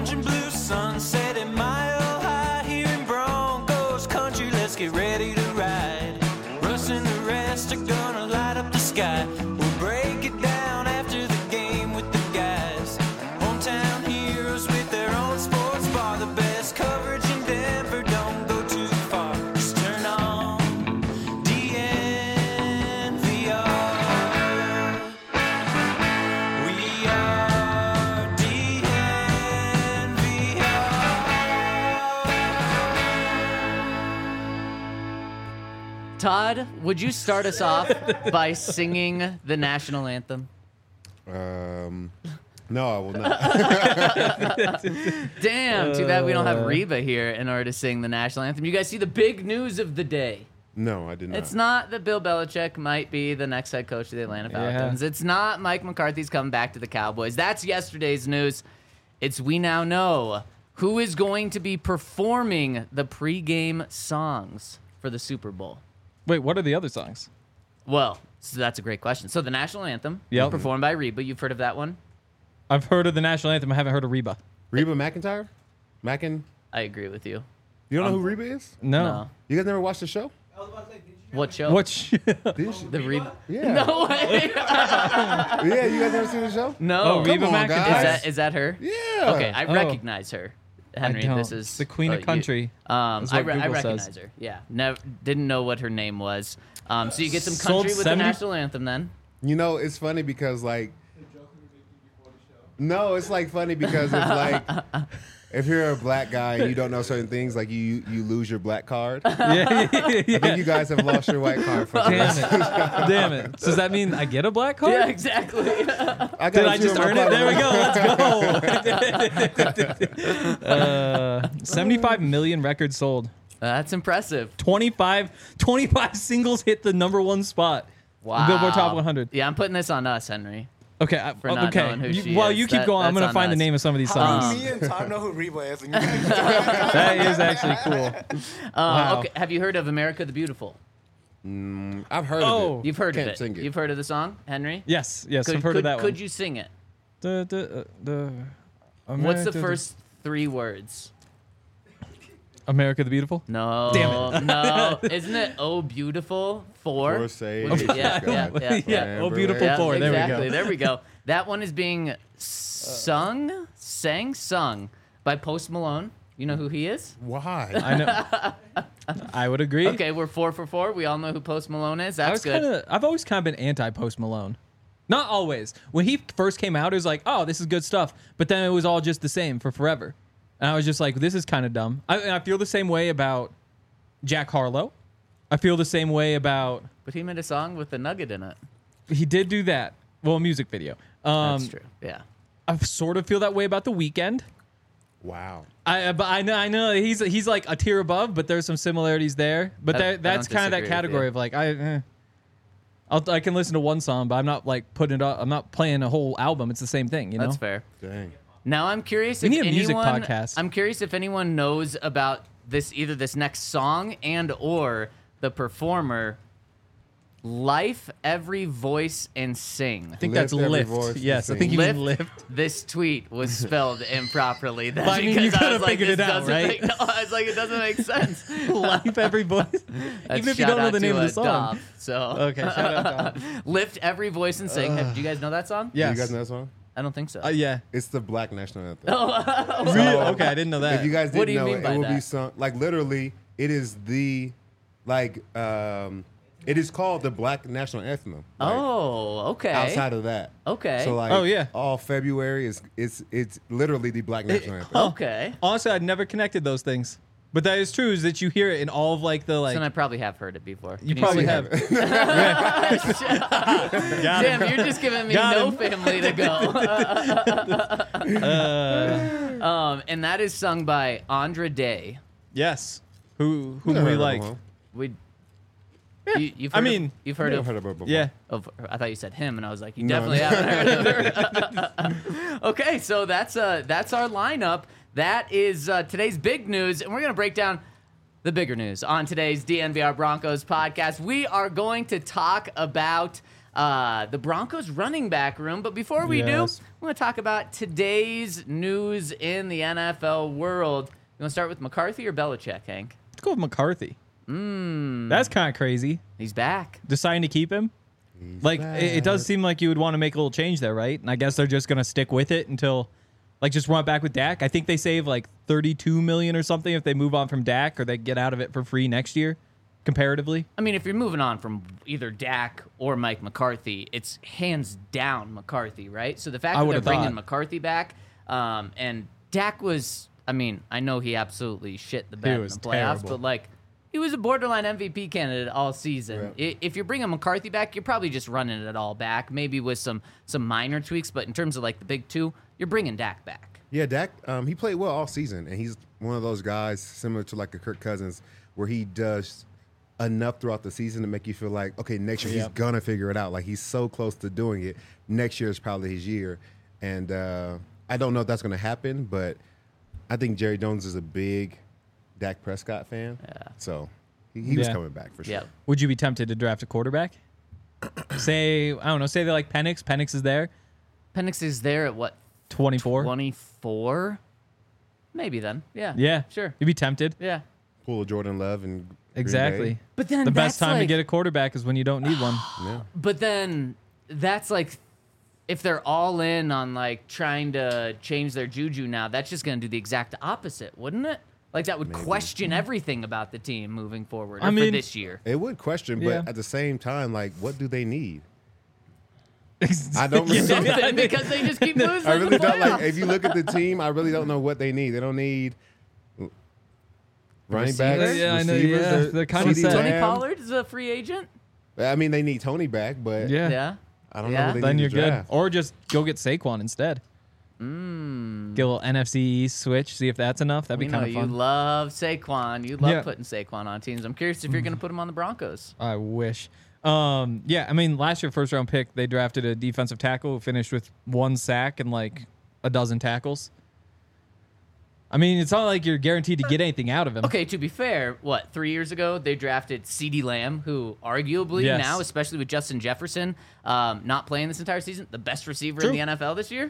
orange and blue sunset at Mile High here in Broncos country. Let's get ready to ride. Russ and the rest are gonna light up the sky. We'll break it down after the game with the guys. Hometown heroes with their own sports bar. The best coverage in Denver, don't go too far. Just turn on DNVR. We are DNVR. Todd, would you start us off by singing the national anthem? No, I will not. Damn, too bad we don't have Reba here in order to sing the national anthem. You guys see the big news of the day. No, I did not. It's not that Bill Belichick might be the next head coach of the Atlanta Falcons. It's not Mike McCarthy's coming back to the Cowboys. That's yesterday's news. It's we now know who is going to be performing the pregame songs for the Super Bowl. Wait, what are the other songs? Well, so that's a great question. So the national anthem, Yep. performed by Reba. You've heard of that one? I've heard of the national anthem. I haven't heard of Reba. Reba McEntire? I agree with you. You don't know who Reba is? No. You guys never watched the show? What show? What? Did you? The Reba? Yeah. No way. Yeah, you guys never seen the show? No. Oh, Reba Come on, McEntire. guys. Is that her? Yeah. Okay, I Oh. recognize her. Henry, don't. this is The queen of country. That's I what Google recognize says. her. Yeah, didn't know what her name was. So you get some Sold country with 70 the national anthem then. You know, it's funny because, like, no, it's like funny because it's like, if you're a black guy and you don't know certain things, like you lose your black card. yeah. I think you guys have lost your white card for Damn it. Damn it. So does that mean I get a black card? Yeah, exactly. I Did got I just earn it? There we go. Let's go. 75 million records sold. That's impressive. 25 singles hit the #1 spot. Wow. Billboard Top 100. Yeah, I'm putting this on us, Henry. Okay. For not okay. knowing who she While is. you keep going, I'm That's going to on find the us. name of some of these How songs. do me and Todd know who Reba is? And you That is actually cool. Wow. Okay, have you heard of America the Beautiful? I've heard of it. You've heard Can't of it. sing it. You've heard of the song, Henry? Yes, I've heard of that one. Could you sing it? What's America the first 3 words? America the Beautiful? No. Damn it. No. Isn't it Oh Beautiful 4? For say, Yeah. Oh, Beautiful Yeah, 4. There we go. exactly. There we go. That one is being sung by Post Malone. You know who he is? Why? I know. I would agree. Okay, we're 4 for 4. We all know who Post Malone is. That's good. I've always kind of been anti Post Malone. Not always. When he first came out, it was like, oh, this is good stuff. But then it was all just the same for forever. And I was just like, this is kind of dumb. I feel the same way about Jack Harlow. I feel the same way about... But he made a song with a nugget in it. He did do that. Well, a music video. That's true. Yeah. I sort of feel that way about The Weeknd. Wow. But I know he's like a tier above, but there's some similarities there. But I that's don't kind of that disagree with category you. of like I can listen to one song, but I'm not like putting it up. I'm not playing a whole album. It's the same thing, you know. That's fair. Dang. Now I'm curious We if need a music anyone, podcast. I'm curious if anyone knows about either this next song and or the performer. Life, Every Voice, and Sing. I think Lift that's every lift. voice and Yes, I sing. think you mean Lift. lift. This tweet was spelled improperly. That's But I mean, you because I coulda was like, figured this it out, doesn't right? make, no, I was like, it doesn't make sense. Life, every voice. That's Even if you shout don't know out the name to, of the song. Dom, so Okay, shout out Dom. Lift Every Voice and Sing. Do you guys know that song? Yes. You guys know that song? I don't think so. Yeah. It's the Black National Anthem. Really? Okay, I didn't know that. If you guys What didn't do you know mean it, by it will be that? sung like literally. It is the it is called the Black National Anthem. Like, Oh, okay. outside of that. Okay. So like, Oh, yeah. all February is it's literally the Black National Anthem. Okay. Honestly, I'd never connected those things. But that is true, is that you hear it in all of like the like. So I probably have heard it before. You Can probably see have. it? Got Damn, him. you're just giving me Got no him. family to go. And that is sung by Andra Day. Yes. Whom Never we heard of like. him, huh? We. You've I heard mean, you've heard Never of. heard of her before. Yeah. I thought you said him, and I was like, you No. definitely haven't heard of her. Okay, so that's our lineup. That is today's big news, and we're gonna break down the bigger news on today's DNVR Broncos podcast. We are going to talk about the Broncos running back room. But before we do, Yes. I want to talk about today's news in the NFL world. You want to start with McCarthy or Belichick, Hank? Let's go with McCarthy. That's kind of crazy. He's back. Deciding to keep him. Like, it does seem like you would want to make a little change there, right? And I guess they're just going to stick with it until, like, just run it back with Dak. I think they save, like, $32 million or something if they move on from Dak, or they get out of it for free next year, comparatively. I mean, if you're moving on from either Dak or Mike McCarthy, it's hands down McCarthy, right? So the fact I that they're would've bringing thought. McCarthy back, and Dak was, I mean, I know he absolutely shit the bed in was the playoffs, terrible. but, like, he was a borderline MVP candidate all season. If you're bringing McCarthy back, you're probably just running it all back, maybe with some minor tweaks. But in terms of like the big two, you're bringing Dak back. Yeah, Dak, he played well all season, and he's one of those guys similar to like a Kirk Cousins where he does enough throughout the season to make you feel like, okay, next year he's going to figure it out. Like he's so close to doing it. Next year is probably his year. And I don't know if that's going to happen, but I think Jerry Jones is a big Dak Prescott fan. Yeah. So he was coming back for sure. Yeah. Would you be tempted to draft a quarterback? Say, I don't know, say they like Penix. Penix is there. Penix is there at what? 24. 24? Maybe then. Yeah. Yeah. Sure. You'd be tempted. Yeah. Pull a Jordan Love and Exactly. But then The best that's time to like- get a quarterback is when you don't need one. Yeah. But then that's like, if they're all in on like trying to change their juju now, that's just going to do the exact opposite, wouldn't it? Like that would question everything about the team moving forward or I for mean- this year. It would question, but Yeah. at the same time, like, what do they need? I don't really. Something because they just keep losing. I in really the don't like. playoffs. If you look at the team, I really don't know what they need. They don't need running backs. Receivers? Yeah, I know, receivers. yeah. They're kinda CeeDee set. Tony Lamb. Pollard is a free agent. I mean, they need Tony back, but Yeah. Yeah. I don't Yeah. know. What they Then need you're to good. draft. Or just go get Saquon instead. Get a little NFC East switch, see if that's enough. That'd We be know kind of you fun. love Saquon. You love Yeah. putting Saquon on teams. I'm curious if you're going to put him on the Broncos. I wish. Yeah, I mean, last year, first round pick, they drafted a defensive tackle who finished with 1 sack and like a dozen tackles. I mean, it's not like you're guaranteed to get anything out of him. Okay, to be fair, 3 years ago they drafted CeeDee Lamb, who arguably Yes. now, especially with Justin Jefferson not playing this entire season, the best receiver in True. the NFL this year.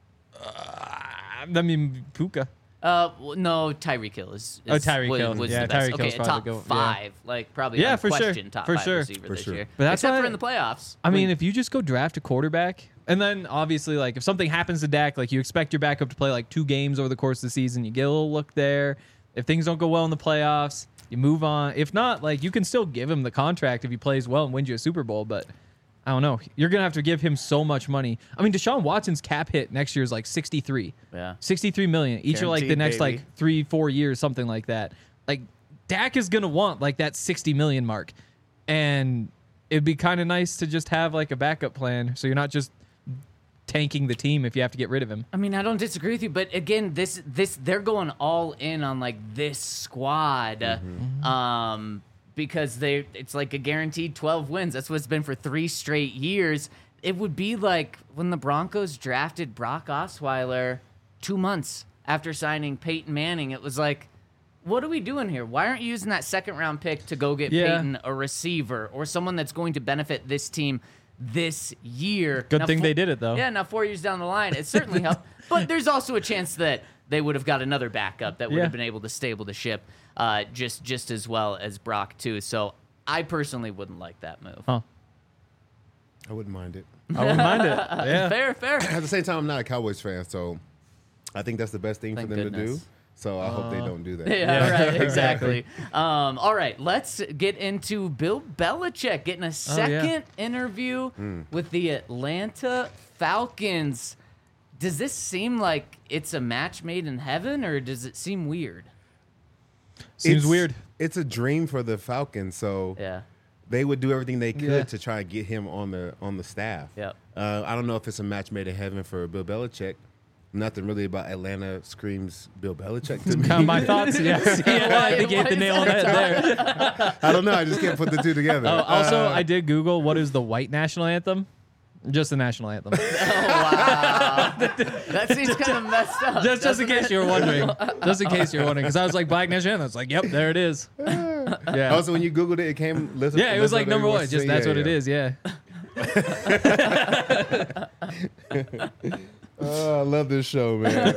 I mean, Puka. No, Tyreek Hill is Tyreek Hill. was Yeah, the best. Tyreek Okay, Hill's a probably top the goat, 5, like probably Yeah, for sure. unquestioned top For 5 sure. receiver For this sure. year. But that's Except why- for in the playoffs. I mean, if you just go draft a quarterback, and then obviously, like, if something happens to Dak, like, you expect your backup to play like 2 games over the course of the season, you get a little look there. If things don't go well in the playoffs, you move on. If not, like, you can still give him the contract if he plays well and wins you a Super Bowl, but I don't know. You're going to have to give him so much money. I mean, Deshaun Watson's cap hit next year is like 63. Yeah. 63 million. Each are like the Guaranteed, next baby. like 3-4 years, something like that. Like, Dak is going to want like that 60 million mark. And it'd be kind of nice to just have like a backup plan so you're not just tanking the team if you have to get rid of him. I mean, I don't disagree with you, but again, this they're going all in on like this squad, because it's like a guaranteed 12 wins. That's what it's been for 3 straight years. It would be like when the Broncos drafted Brock Osweiler 2 months after signing Peyton Manning. It was like, what are we doing here? Why aren't you using that 2nd-round pick to go get Yeah. Peyton a receiver or someone that's going to benefit this team this year? Good Now, thing they did it, though. Yeah, now 4 years down the line, it certainly helped. But there's also a chance that they would have got another backup that would Yeah. have been able to stable the ship just as well as Brock, too. So I personally wouldn't like that move. Huh. I wouldn't mind it. I wouldn't mind it. Yeah. Fair. At the same time, I'm not a Cowboys fan, so I think that's the best thing Thank for them to goodness. do. So I hope they don't do that. Yeah, right, exactly. All right, let's get into Bill Belichick getting a second interview with the Atlanta Falcons. Does this seem like it's a match made in heaven, or does it seem weird? Seems It's- weird. It's a dream for the Falcons, so Yeah. they would do everything they could Yeah. to try and get him on the staff. Yep. I don't know if it's a match made in heaven for Bill Belichick. Nothing really about Atlanta screams Bill Belichick to me. Kind of my thoughts. Yes. Yeah, I think you hit the nail on the head there. I don't know. I just can't put the two together. Oh, also, I did Google what is the white national anthem. Just the national anthem. That seems kind of messed up. just in case you were wondering. Just in case you were wondering. Because I was like, black national anthem. It's like, yep, there it is. Yeah. Also, when you Googled it, it came. Yeah, it was like number 1. Just that's what it is. Yeah. Oh, I love this show, man.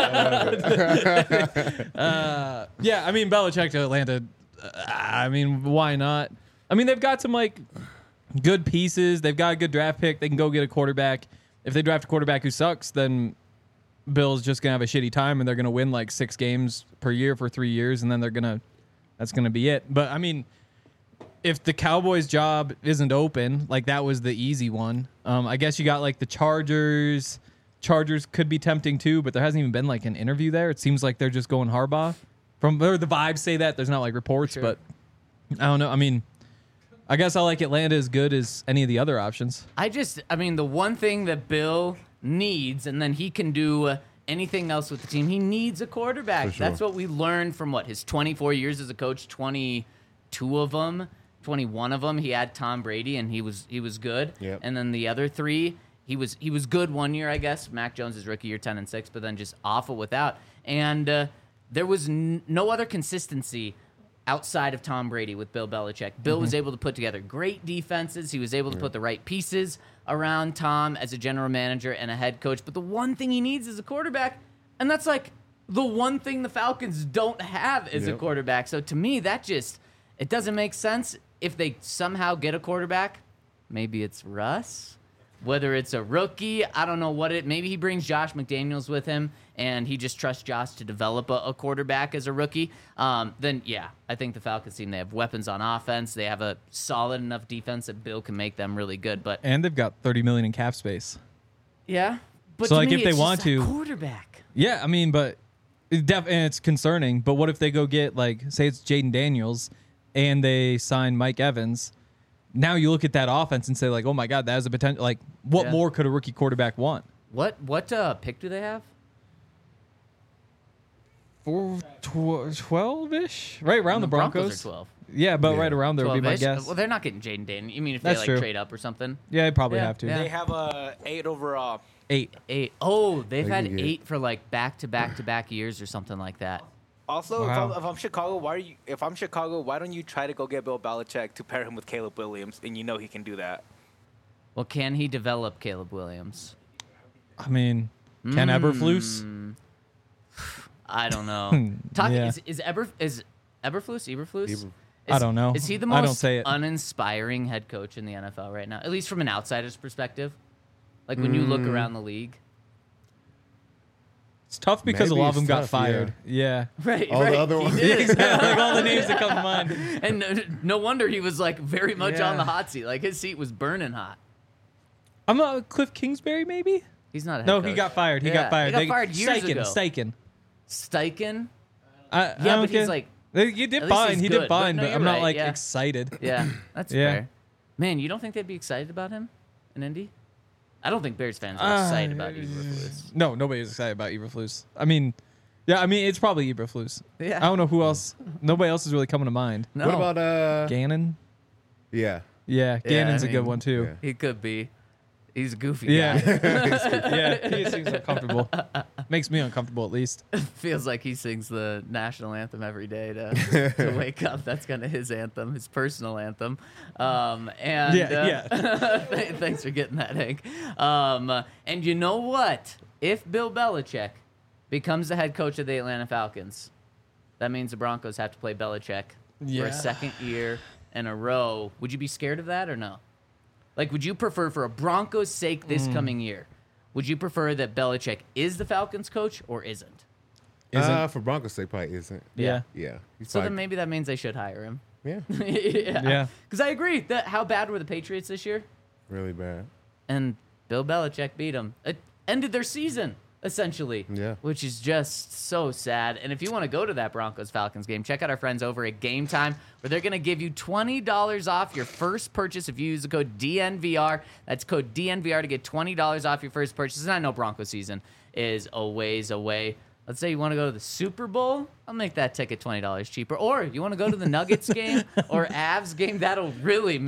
Yeah, I mean, Belichick to Atlanta. I mean, why not? I mean, they've got some like good pieces. They've got a good draft pick. They can go get a quarterback. If they draft a quarterback who sucks, then Bill's just gonna have a shitty time, and they're gonna win like 6 games per year for 3 years, and then that's gonna be it. But I mean, if the Cowboys' job isn't open, like that was the easy one. I guess you got like the Chargers. Chargers could be tempting too, but there hasn't even been like an interview there. It seems like they're just going Harbaugh. Or the vibes say that. There's not like reports, Sure. but I don't know. I mean, I guess I like Atlanta as good as any of the other options. I mean, the one thing that Bill needs, and then he can do anything else with the team, he needs a quarterback. For sure. That's what we learned from his 24 years as a coach, 22 of them, 21 of them, he had Tom Brady, and he was good. Yep. And then the other 3, he was good one year, I guess. Mac Jones' his rookie year, 10-6, but then just awful without. And there was no other consistency outside of Tom Brady with Bill Belichick. Bill was able to put together great defenses. He was able to put the right pieces around Tom as a general manager and a head coach. But the one thing he needs is a quarterback, and that's like the one thing the Falcons don't have is a quarterback. So to me, it doesn't make sense. If they somehow get a quarterback, maybe it's Russ. Whether it's a rookie, I don't know maybe he brings Josh McDaniels with him and he just trusts Josh to develop a quarterback as a rookie. Then, yeah, I think the Falcons team, they have weapons on offense. They have a solid enough defense that Bill can make them really good. But And they've got $30 million in cap space. yeah. But So, to like, me, if they it's want just that to- quarterback. Yeah, I mean, but and it's concerning. But what if they go get, like, say it's Jaden Daniels and they sign Mike Evans? Now you look at that offense and say, like, oh my God, that has a potential. Like, what Yeah. more could a rookie quarterback want? What pick do they have? 12-ish? Right around the Broncos. are 12. Yeah, but Yeah. right around there would be my 12-ish? guess. Well, they're not getting Jaden Daniels. You mean if That's they true. trade up or something? Yeah, they probably Yeah, have to. yeah. They have a 8 overall. 8. 8. Oh, they've They had can get- 8 for like back-to-back years or something like that. Also, Wow. if I'm Chicago, why don't you try to go get Bill Belichick to pair him with Caleb Williams, and you know he can do that. Well, can he develop Caleb Williams? I mean, Ken Eberflus? I don't know. Yeah. Is Eberflus? I don't know. Is he the I don't most say it. uninspiring head coach in the NFL right now? At least from an outsider's perspective. Like when you look around the league. It's tough because Maybe a lot of them it's got tough, fired. Yeah. Right, All the other he ones. did. Exactly. Like all the names that come to mind. And no wonder he was like very much Yeah. on the hot seat. Like his seat was burning hot. I'm not Cliff Kingsbury, maybe? He's not a head No, coach. he got fired. He Yeah, got fired. He got fired years ago. Steichen. Steichen? I Yeah, don't but he's care. like, You did at least fine. he's He good, did fine, but but no, I'm you're not right, like yeah. excited. yeah, that's Yeah. fair. Man, you don't think they'd be excited about him in Indy? I don't think Bears fans are excited about Eberflus. No, nobody's excited about Eberflus. I mean, yeah, I mean it's probably Eberflus. Yeah. I don't know who else. Nobody else is really coming to mind. No, What about Gannon? Yeah. Yeah, Gannon's I a good mean, one too. yeah. he could be. He's a goofy Yeah. guy. Yeah, he seems uncomfortable. Makes me uncomfortable at least. Feels like he sings the national anthem every day to wake up. That's kind of his anthem, his personal anthem. And Yeah. thanks for getting that, Hank. And you know what? If Bill Belichick becomes the head coach of the Atlanta Falcons, that means the Broncos have to play Belichick for Yeah. a second year in a row. Would you be scared of that or no? Like, would you prefer, for a Broncos' sake this coming year, would you prefer that Belichick is the Falcons coach or isn't? For Broncos' sake, probably isn't. Yeah. Yeah. He's So then probably- maybe that means they should hire him. yeah, Yeah. Because I agree that how bad were the Patriots this year? really bad. And Bill Belichick beat them. It ended their season, essentially. Yeah. Which is just so sad. And if you want to go to that Broncos-Falcons game, check out our friends over at Game Time, where they're going to give you $20 off your first purchase if you use the code DNVR. That's code DNVR to get $20 off your first purchase. And I know Broncos season is a ways away. Let's say you want to go to the Super Bowl, I'll make that ticket $20 cheaper. Or you want to go to the Nuggets game or Avs game, that'll really make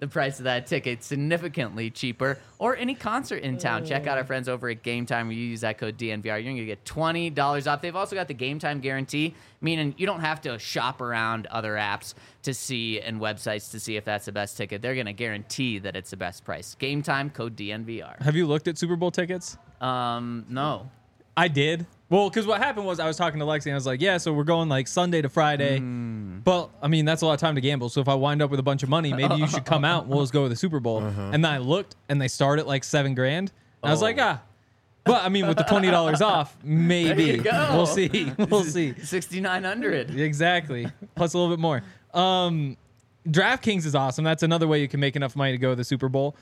the price of that ticket significantly cheaper, or any concert in town, check out our friends over at Game Time. Where you use that code DNVR, you're going to get $20 off. They've also got the Game Time guarantee, meaning you don't have to shop around other apps to see and websites to see if that's the best ticket. They're going to guarantee that it's the best price. Game Time, code DNVR. Have you looked at Super Bowl tickets? No. I did. Well, because what happened was I was talking to Lexi and I was like, yeah, so we're going like Sunday to Friday. But, I mean, that's a lot of time to gamble. So if I wind up with a bunch of money, maybe you should come out and we'll just go to the Super Bowl. And then I looked and they start at like $7,000. And I was like, But, I mean, with the $20 off, maybe. There you go. We'll see. We'll see. $6,900. Exactly. Plus a little bit more. DraftKings is awesome. That's another way you can make enough money to go to the Super Bowl.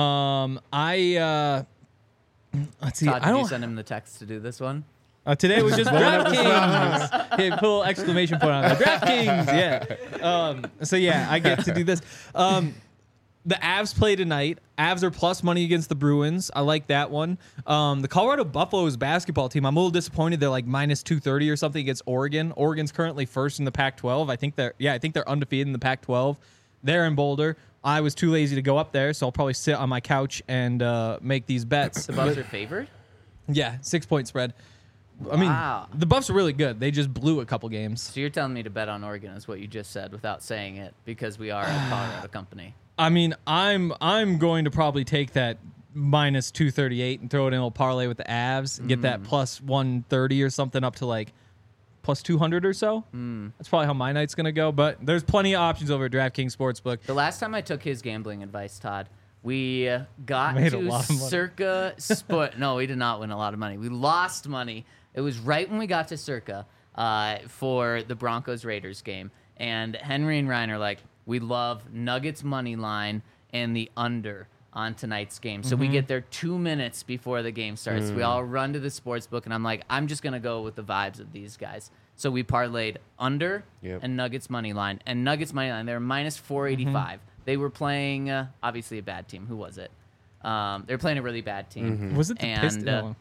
Let's see. Todd, did you send him the text to do this one? Today was just DraftKings. Hey, put a little exclamation point on it. DraftKings, yeah. So yeah, I get to do this. The Avs play tonight. Avs are plus money against the Bruins. I like that one. The Colorado Buffaloes basketball team. I'm a little disappointed. They're like minus 230 or something against Oregon. Oregon's currently first in the Pac-12. I think they're undefeated in the Pac-12. They're in Boulder. I was too lazy to go up there, so I'll probably sit on my couch and make these bets. The Buffs are favored? Yeah, 6-point spread. I mean, the Buffs are really good. They just blew a couple games. So you're telling me to bet on Oregon is what you just said without saying it, because we are a Colorado company. I mean, I'm going to probably take that minus 238 and throw it in a little parlay with the Avs and get that plus 130 or something up to like plus 200 or so. That's probably how my night's going to go. But there's plenty of options over at DraftKings Sportsbook. The last time I took his gambling advice, Todd, we got to Circa Sport. No, we did not win a lot of money. We lost money. It was right when we got to Circa for the Broncos-Raiders game. And Henry and Ryan are like, we love Nuggets money line and the under on tonight's game. So we get there 2 minutes before the game starts. We all run to the sports book, and I'm like, I'm just going to go with the vibes of these guys. So we parlayed under and Nuggets money line. And Nuggets money line, they were minus 485. They were playing, obviously, a bad team. Who was it? They were playing a really bad team. Was it the Pistons?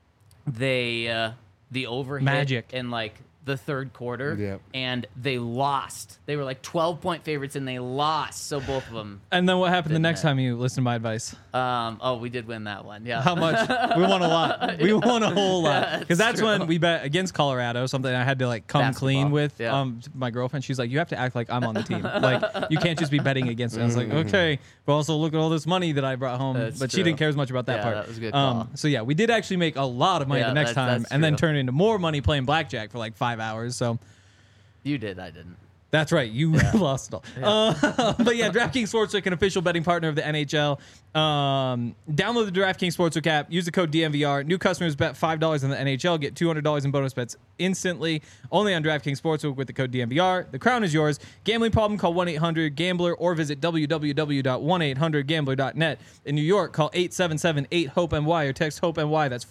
The overhit Magic in like the third quarter, and they lost. They were like 12-point favorites, and they lost. So both of them. And then what happened the next time you listened to my advice? We did win that one. Yeah. How much? We won a lot. We won a whole lot. Because that's when we bet against Colorado, something I had to like come clean with. My girlfriend, she's like, you have to act like I'm on the team. Like, you can't just be betting against it. I was like, okay. But also look at all this money that I brought home. But she didn't care as much about that part. That was a good call. So yeah, we did actually make a lot of money the next time, and then turn into more money playing blackjack for like 5 hours. So you did, I didn't. That's right. You lost it all. But yeah, DraftKings Sportsbook, an official betting partner of the NHL. Download the DraftKings Sportsbook app. Use the code DNVR. New customers bet $5 on the NHL. Get $200 in bonus bets instantly. Only on DraftKings Sportsbook with the code DNVR. The crown is yours. Gambling problem? Call 1-800-GAMBLER or visit www.1800gambler.net. In New York, call 877-8-HOPE-NY or text HOPE-NY. That's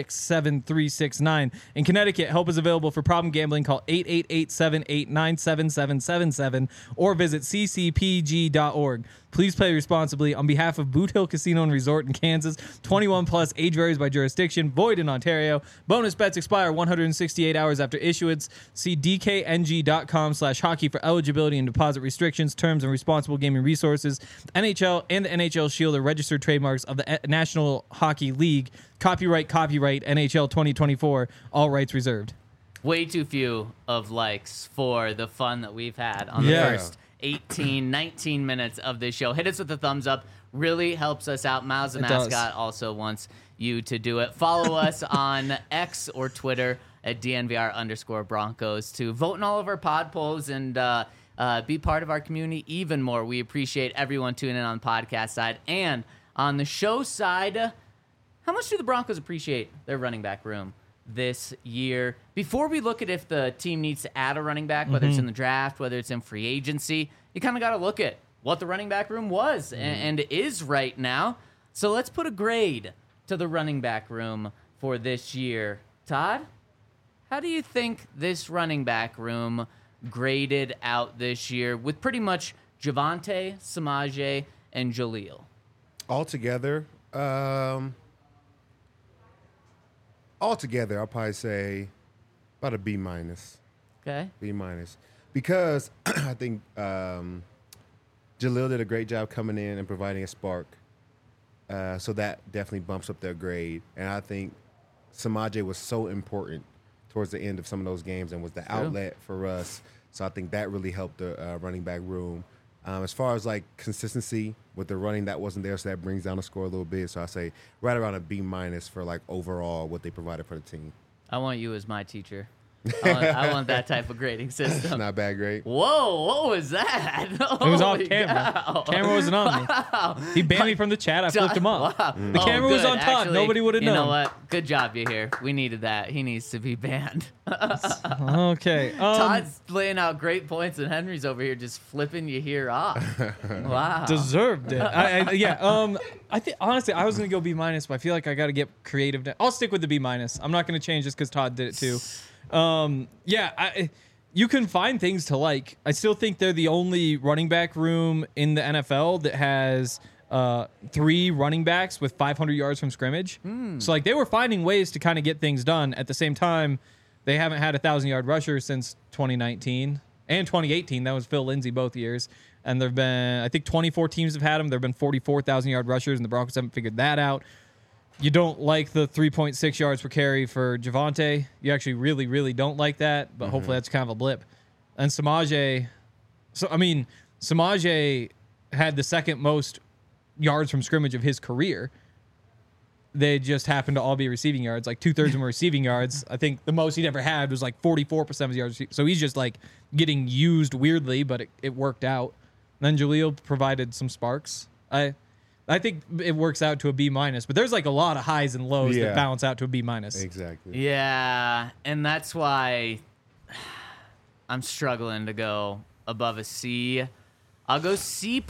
467-369. In Connecticut, help is available for problem gambling. Call 888-789-7777 or visit ccpg.org. Please play responsibly. On behalf of Boot Hill Casino and Resort in Kansas, 21 plus, age varies by jurisdiction, void in Ontario. Bonus bets expire 168 hours after issuance. See dkng.com/hockey for eligibility and deposit restrictions, terms, and responsible gaming resources. NHL and the NHL Shield are registered trademarks of the National Hockey League. Copyright NHL 2024. All rights reserved. Way too few of likes for the fun that we've had on the first 18, 19 minutes of this show. Hit us with a thumbs up. Really helps us out. Miles the Mascot also wants you to do it. Follow us on X or Twitter at DNVR_Broncos to vote in all of our pod polls and be part of our community even more. We appreciate everyone tuning in on the podcast side. And on the show side, how much do the Broncos appreciate their running back room this year? Before we look at if the team needs to add a running back, whether it's in the draft, whether it's in free agency, you kind of got to look at what the running back room was and is right now. So let's put a grade to the running back room for this year. Todd, how do you think this running back room graded out this year with pretty much Javonte, Samaje, and Jaleel? Altogether, I'll probably say about a B-. Okay. B-, because I think Jaleel did a great job coming in and providing a spark. So that definitely bumps up their grade. And I think Samaje was so important towards the end of some of those games and was the outlet for us. So I think that really helped the running back room. As far as like consistency with the running, that wasn't there, so that brings down the score a little bit. So I say right around a B- for like overall what they provided for the team. I want you as my teacher. I want that type of grading system. It's not a bad grade. Whoa, what was that? It was off Holy camera. cow. Camera wasn't on me. He banned me from the chat. I flipped him off. Wow. The camera was good. on Todd. Actually, Nobody would have known. You know what? Good job, you here. We needed that. He needs to be banned. Okay. Todd's laying out great points, and Henry's over here just flipping you here off. Wow. Deserved it. I think honestly, I was gonna go B-, but I feel like I got to get creative. I'll stick with the B-. I'm not gonna change just because Todd did it too. You can find things to like. I still think they're the only running back room in the NFL that has 3 running backs with 500 yards from scrimmage. So like they were finding ways to kind of get things done. At the same time, they haven't had a 1,000-yard rusher since 2019 and 2018. That was Phil Lindsay both years. And there've been, I think 24 teams have had them. There've been 44,000-yard rushers, and the Broncos haven't figured that out. You don't like the 3.6 yards per carry for Javonte. You actually really, really don't like that, but hopefully that's kind of a blip. And Samaje, Samaje had the second most yards from scrimmage of his career. They just happened to all be receiving yards. Like 2/3 of them were receiving yards. I think the most he'd ever had was like 44% of his yards. So he's just like getting used weirdly, but it worked out. And then Jaleel provided some sparks. I think it works out to a B-, but there's like a lot of highs and lows that balance out to a B-. Exactly. Yeah, and that's why I'm struggling to go above a C. I'll go C+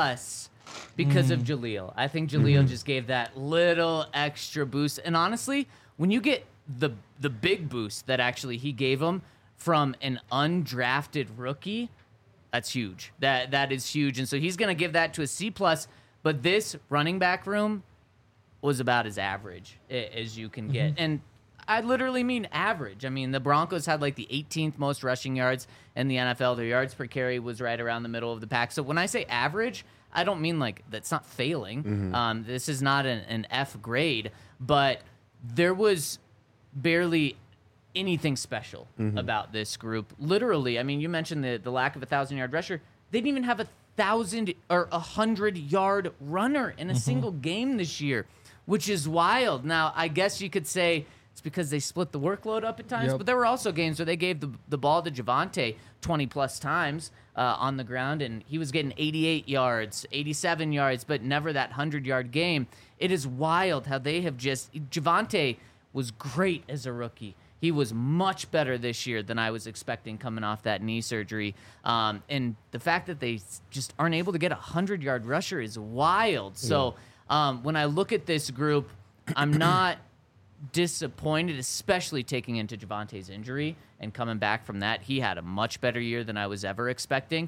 because of Jaleel. I think Jaleel just gave that little extra boost. And honestly, when you get the big boost that actually he gave him from an undrafted rookie, that's huge. That is huge. And so he's going to give that to a C+. But this running back room was about as average as you can get. And I literally mean average. I mean, the Broncos had like the 18th most rushing yards in the NFL. Their yards per carry was right around the middle of the pack. So when I say average, I don't mean like that's not failing. This is not an F grade. But there was barely anything special about this group. Literally, I mean, you mentioned the lack of a 1,000-yard rusher. They didn't even have a 1,000 or 100-yard runner in a single game this year, which is wild. Now, I guess you could say it's because they split the workload up at times, but there were also games where they gave the ball to Javonte 20-plus times on the ground, and he was getting 88 yards, 87 yards, but never that 100-yard game. It is wild how they have just... Javonte was great as a rookie. He was much better this year than I was expecting coming off that knee surgery. And the fact that they just aren't able to get a 100-yard rusher is wild. So when I look at this group, I'm not disappointed, especially taking into Javonte's injury and coming back from that. He had a much better year than I was ever expecting.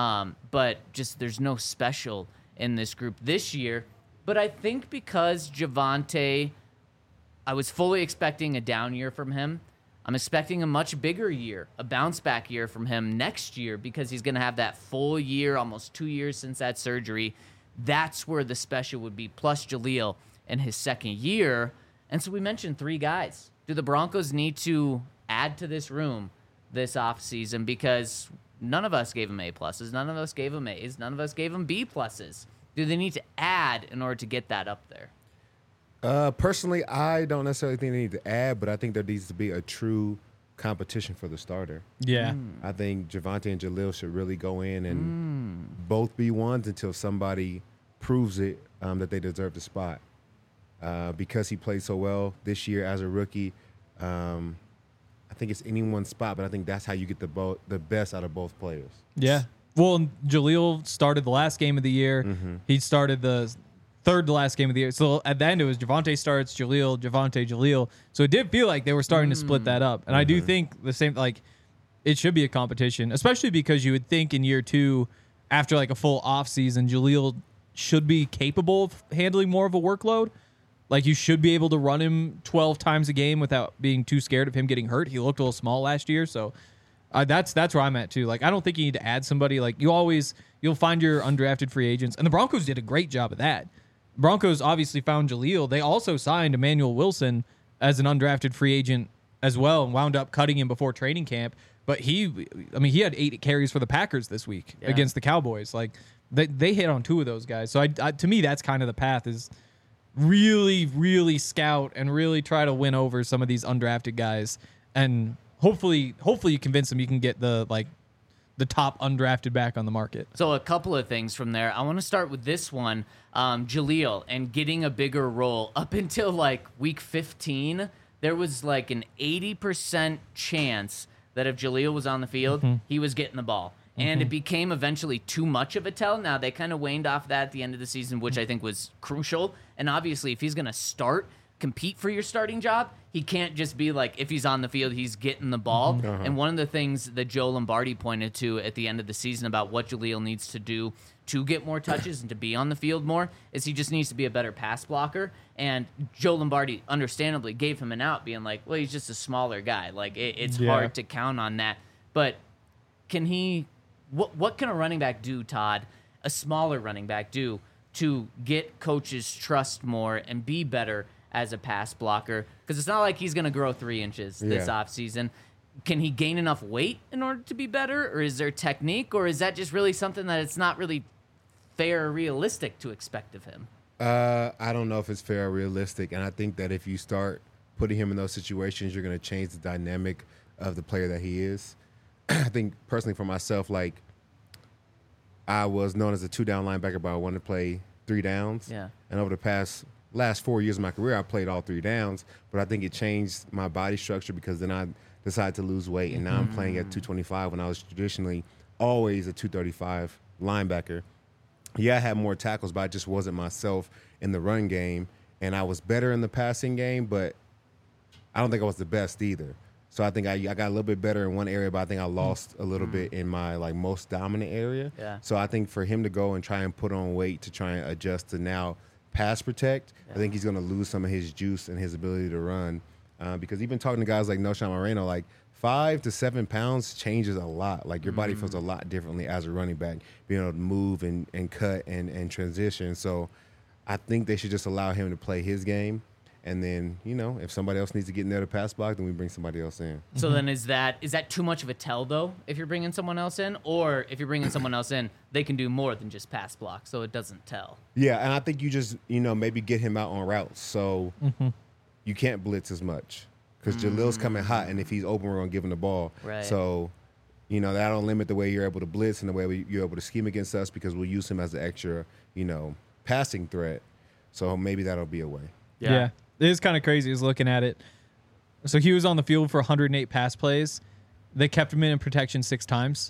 But just there's no special in this group this year. But I think because Javonte... I was fully expecting a down year from him. I'm expecting a much bigger year, a bounce-back year from him next year because he's going to have that full year, almost 2 years since that surgery. That's where the special would be, plus Jaleel in his second year. And so we mentioned 3 guys. Do the Broncos need to add to this room this offseason? Because none of us gave him A+, none of us gave him A's, none of us gave him B+. Do they need to add in order to get that up there? Personally, I don't necessarily think they need to add, but I think there needs to be a true competition for the starter. Yeah. I think Javonte and Jaleel should really go in and both be ones until somebody proves it that they deserve the spot. Because he played so well this year as a rookie, I think it's anyone's spot, but I think that's how you get the best out of both players. Yeah. Well, Jaleel started the last game of the year. He started the third to last game of the year. So at the end, it was Javonte starts, Jaleel, Javonte, Jaleel. So it did feel like they were starting to split that up. And I do think the same, like, it should be a competition, especially because you would think in year 2, after like a full off season, Jaleel should be capable of handling more of a workload. Like, you should be able to run him 12 times a game without being too scared of him getting hurt. He looked a little small last year, so That's where I'm at too. Like, I don't think you need to add somebody. Like, you'll find your undrafted free agents, and the Broncos did a great job of that. Broncos obviously found Jaleel. They also signed Emmanuel Wilson as an undrafted free agent as well, and wound up cutting him before training camp. But he had 8 carries for the Packers this week against the Cowboys. Like, they hit on 2 of those guys. So to me, that's kind of the path, is really, really scout and really try to win over some of these undrafted guys, and hopefully you convince them you can get the top undrafted back on the market. So a couple of things from there. I want to start with this one, Jaleel, and getting a bigger role. Up until like week 15, there was like an 80% chance that if Jaleel was on the field, he was getting the ball. And it became eventually too much of a tell. Now, they kind of waned off that at the end of the season, which I think was crucial. And obviously, if he's going to compete for your starting job, he can't just be like, if he's on the field, he's getting the ball. And one of the things that Joe Lombardi pointed to at the end of the season about what Jaleel needs to do to get more touches and to be on the field more is he just needs to be a better pass blocker. And Joe Lombardi understandably gave him an out, being like, well, he's just a smaller guy. Like, it's hard to count on that. But can he... What can a running back do, Todd, a smaller running back do, to get coaches' trust more and be better as a pass blocker? Because it's not like he's going to grow 3 inches this offseason. Can he gain enough weight in order to be better? Or is there technique? Or is that just really something that it's not really fair or realistic to expect of him? I don't know if it's fair or realistic. And I think that if you start putting him in those situations, you're going to change the dynamic of the player that he is. I think personally for myself, like, I was known as a 2-down linebacker, but I wanted to play 3 downs. Yeah. And over the last 4 years of my career, I played all 3 downs. But I think it changed my body structure because then I decided to lose weight, and now I'm playing at 225 when I was traditionally always a 235 linebacker. Yeah, I had more tackles, but I just wasn't myself in the run game. And I was better in the passing game, but I don't think I was the best either. So I think I got a little bit better in one area, but I think I lost a little bit in my like most dominant area. Yeah. So I think for him to go and try and put on weight to try and adjust to now pass protect, I think he's going to lose some of his juice and his ability to run. Because even talking to guys like Noshan Moreno, like 5 to 7 pounds changes a lot. Like your body feels a lot differently as a running back, being able to move and cut and transition. So I think they should just allow him to play his game. And then, if somebody else needs to get in there to pass block, then we bring somebody else in. So then is that too much of a tell, though, if you're bringing someone else in? Or if you're bringing someone else in, they can do more than just pass block, so it doesn't tell? Yeah, and I think you just, maybe get him out on routes so you can't blitz as much. Because Jaleel's coming hot, and if he's open, we're going to give him the ball. Right. So, that'll limit the way you're able to blitz and the way you're able to scheme against us because we'll use him as an extra, passing threat. So maybe that'll be a way. Yeah. It is kind of crazy. I was looking at it. So he was on the field for 108 pass plays. They kept him in protection 6 times.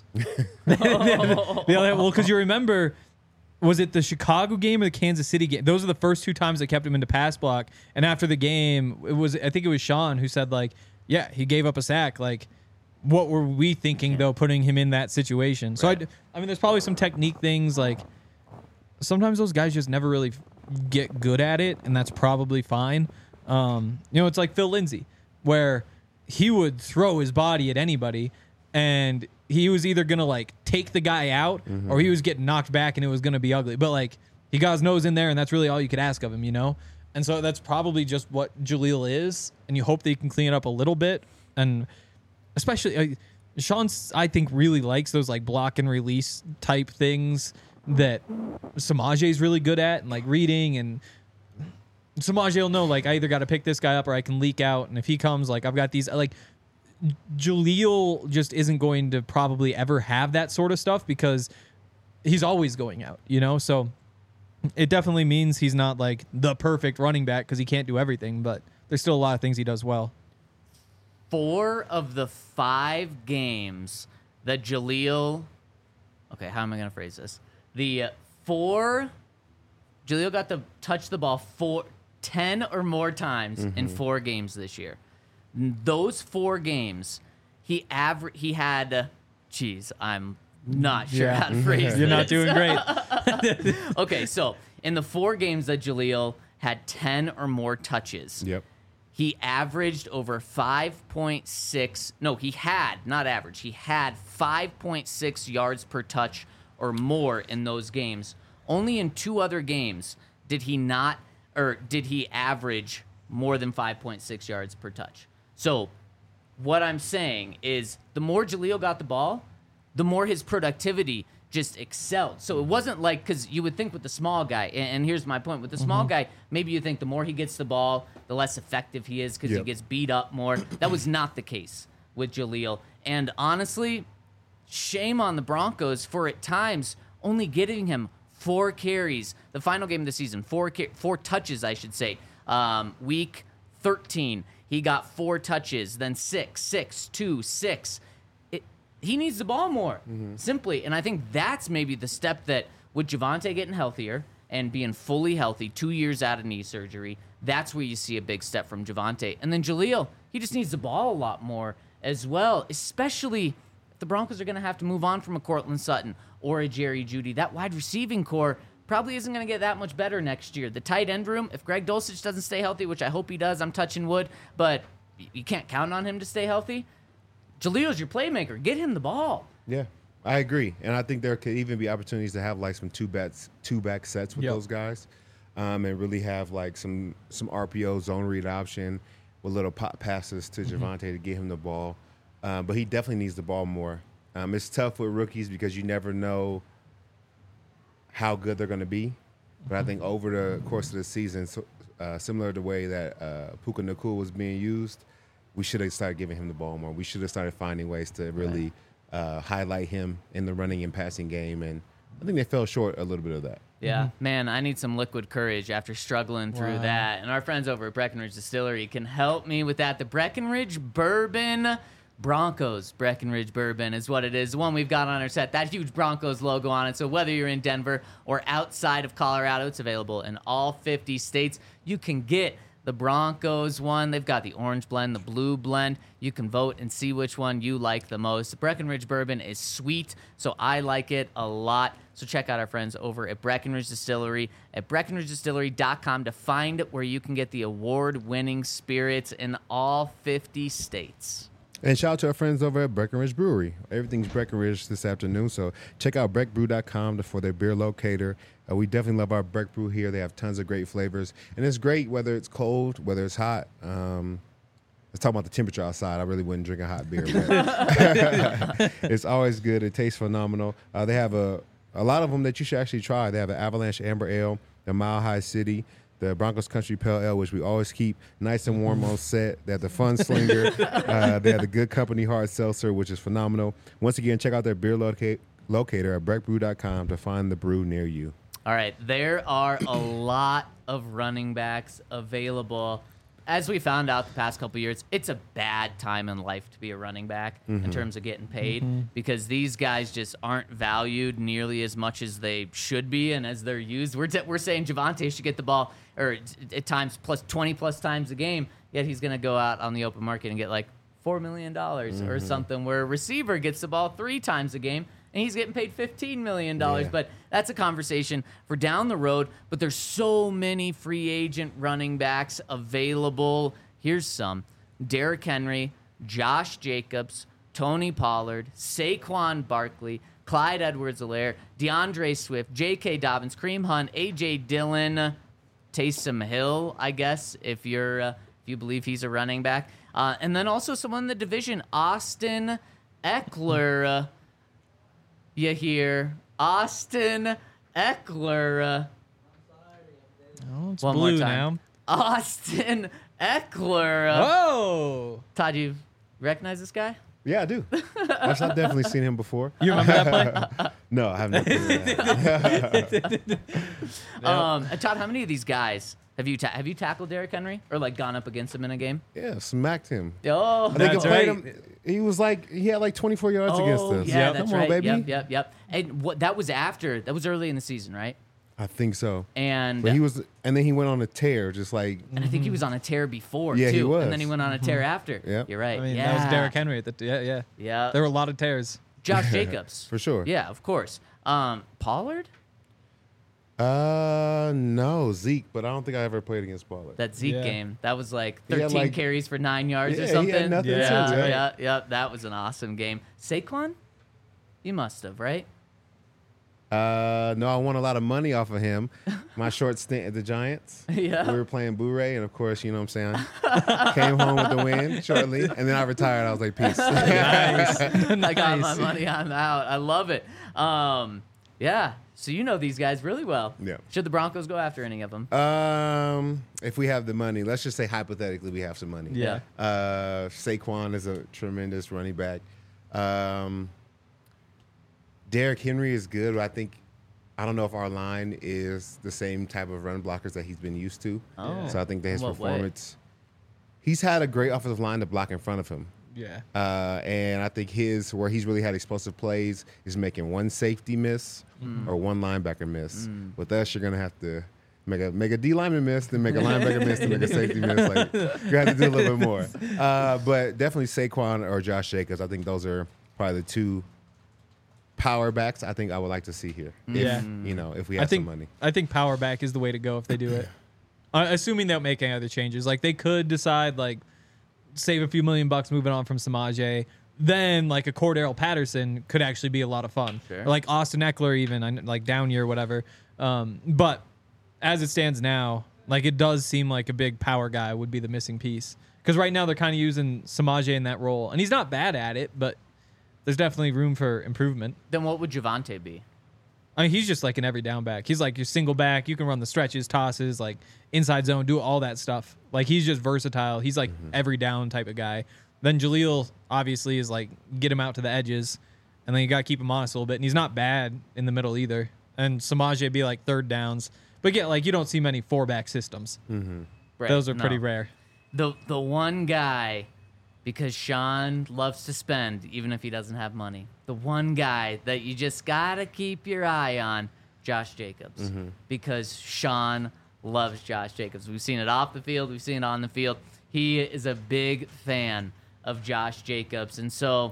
Well, because you remember, was it the Chicago game or the Kansas City game? Those are the first 2 times they kept him into pass block. And after the game, I think it was Sean who said, like, yeah, he gave up a sack. Like, what were we thinking, though, putting him in that situation? So, I mean, there's probably some technique things. Like, sometimes those guys just never really get good at it, and that's probably fine. It's like Phil Lindsay, where he would throw his body at anybody, and he was either going to, like, take the guy out or he was getting knocked back and it was going to be ugly. But, like, he got his nose in there, and that's really all you could ask of him, And so that's probably just what Jaleel is, and you hope that he can clean it up a little bit. And especially, Sean, I think, really likes those, like, block and release type things that Samaje is really good at, and like reading, and Samaje will know, like, I either got to pick this guy up or I can leak out, and if he comes, like, I've got these, like, Jaleel just isn't going to probably ever have that sort of stuff because he's always going out, so it definitely means he's not like the perfect running back because he can't do everything, but there's still a lot of things he does well. 4 of the 5 games that Jaleel, okay, how am I going to phrase this? Jaleel got to touch the ball 10 or more times in 4 games this year. Those 4 games, he had, I'm not sure how to phrase this. You're not doing great. Okay, so in the 4 games that Jaleel had 10 or more touches, he averaged over 5.6. No, he had, not average. He had 5.6 yards per touch or more in those games. Only in 2 other games did he average more than 5.6 yards per touch. So what I'm saying is the more Jaleel got the ball, the more his productivity just excelled. So it wasn't like, because you would think with the small guy, and here's my point, with the small guy, maybe you think the more he gets the ball, the less effective he is because he gets beat up more. That was not the case with Jaleel. And honestly, shame on the Broncos for at times only getting him 4 carries. The final game of the season, 4 touches, I should say. Week 13, he got 4 touches, then 6, 2, 6. He needs the ball more, simply. And I think that's maybe the step that with Javonte getting healthier and being fully healthy, 2 years out of knee surgery, that's where you see a big step from Javonte. And then Jaleel, he just needs the ball a lot more as well, especially if the Broncos are going to have to move on from a Cortland Sutton or a Jerry Jeudy. That wide receiving core probably isn't going to get that much better next year. The tight end room, if Greg Dulcich doesn't stay healthy, which I hope he does, I'm touching wood, but you can't count on him to stay healthy. Jaleel's your playmaker. Get him the ball. Yeah, I agree. And I think there could even be opportunities to have like some two-back sets with those guys, and really have like some RPO zone read option with little pop passes to Javonte to get him the ball. But he definitely needs the ball more. It's tough with rookies because you never know how good they're going to be. But I think over the course of the season, similar to the way that Puka Nacua was being used, we should have started giving him the ball more. We should have started finding ways to really highlight him in the running and passing game. And I think they fell short a little bit of that. Yeah, man, I need some liquid courage after struggling through that. And our friends over at Breckenridge Distillery can help me with that. The Breckenridge Bourbon Broncos Breckenridge Bourbon is what it is. The one we've got on our set, that huge Broncos logo on it. So whether you're in Denver or outside of Colorado, it's available in all 50 states. You can get the Broncos one. They've got the orange blend, the blue blend. You can vote and see which one you like the most. The Breckenridge Bourbon is sweet, so I like it a lot. So check out our friends over at Breckenridge Distillery at BreckenridgeDistillery.com to find where you can get the award-winning spirits in all 50 states. And shout out to our friends over at Breckenridge Brewery. Everything's Breckenridge this afternoon, so check out breckbrew.com for their beer locator. We definitely love our Breck Brew here. They have tons of great flavors. And it's great whether it's cold, whether it's hot. Let's talk about the temperature outside. I really wouldn't drink a hot beer. But it's always good. It tastes phenomenal. They have a lot of them that you should actually try. They have an Avalanche Amber Ale, the Mile High City, the Broncos Country Pale Ale, which we always keep nice and warm on set. They have the Fun Slinger. They have the Good Company Hard Seltzer, which is phenomenal. Once again, check out their beer locator at breckbrew.com to find the brew near you. All right, there are a lot of running backs available. As we found out the past couple years, it's a bad time in life to be a running back in terms of getting paid because these guys just aren't valued nearly as much as they should be and as they're used. We're saying Javonte should get the ball or at times plus 20 plus times a game, yet he's going to go out on the open market and get like $4 million or something, where a receiver gets the ball 3 times a game and he's getting paid $15 million. Yeah. But that's a conversation for down the road. But there's so many free agent running backs available. Here's some: Derrick Henry, Josh Jacobs, Tony Pollard, Saquon Barkley, Clyde Edwards-Helaire, DeAndre Swift, J.K. Dobbins, Kareem Hunt, A.J. Dillon, Taysom Hill, I guess, if you believe he's a running back. And then also someone in the division, Austin Eckler. You hear Austin Eckler. Oh, it's One blue more time. now. Austin Eckler. Whoa! Todd, you recognize this guy? Yeah, I do. I've definitely seen him before. You remember that play? No, I haven't. Todd, how many of these guys have you tackled Derrick Henry or like gone up against him in a game? Yeah, smacked him. Oh, I think That's I played right. him. He had like 24 yards against us. Yeah, that's Come right. on, baby. Yep. And that was early in the season, right? I think so. And But then he went on a tear, just like. And I think he was on a tear before Yeah, too. he was. And then he went on a tear after. Yep. You're right. I mean, yeah. that was Derrick Henry. Yeah. There were a lot of tears. Josh Jacobs. For sure. Yeah, of course. Pollard? No, Zeke, but I don't think I ever played against Pollard. That Zeke Yeah. game, that was like He had, 13 carries for 9 yards or Yeah, he something. had nothing Yeah. too, yeah, yeah, that was an awesome game. Saquon, you must have, right? No, I won a lot of money off of him. My short stint at the Giants. Yeah. We were playing Blu-ray, and of course, you know what I'm saying? Came home with the win shortly, and then I retired. I was like, peace. Nice. I got my Nice. money. I'm out. I love it. Yeah. So you know these guys really well. Yeah. Should the Broncos go after any of them? If we have the money, let's just say hypothetically we have some money. Yeah. Saquon is a tremendous running back. Derrick Henry is good, but I don't know if our line is the same type of run blockers that he's been used to. Oh. So I think that his In what way? performance, he's had a great offensive line to block in front of him. Yeah. And I think where he's really had explosive plays is making one safety miss or one linebacker miss. With us, you're gonna have to make a D lineman miss, then make a linebacker miss, then make a safety miss. Like you have to do a little bit more. But definitely Saquon or Josh Jacobs. I think those are probably the two power backs I think I would like to see here. Yeah. If we have some money. I think power back is the way to go if they do it. Assuming they don't make any other changes. Like they could decide like save a few $1,000,000 moving on from Samaje. Then like a Cordero Patterson could actually be a lot of fun. Sure. Or like Austin Eckler even like down year whatever. But as it stands now, like it does seem like a big power guy would be the missing piece. Because right now they're kind of using Samaje in that role, and he's not bad at it, but there's definitely room for improvement. Then what would Javonte be? I mean, he's just like an every down back. He's like your single back. You can run the stretches, tosses, like inside zone, do all that stuff. Like he's just versatile. He's like every down type of guy. Then Jaleel obviously is like get him out to the edges, and then you got to keep him honest a little bit. And he's not bad in the middle either. And Samaje be like third downs, but yeah, like you don't see many 4-back systems. Right, Those are no. pretty rare. The one guy, because Sean loves to spend even if he doesn't have money. The one guy that you just gotta keep your eye on, Josh Jacobs, because Sean loves Josh Jacobs. We've seen it off the field. We've seen it on the field. He is a big fan of Josh Jacobs, and so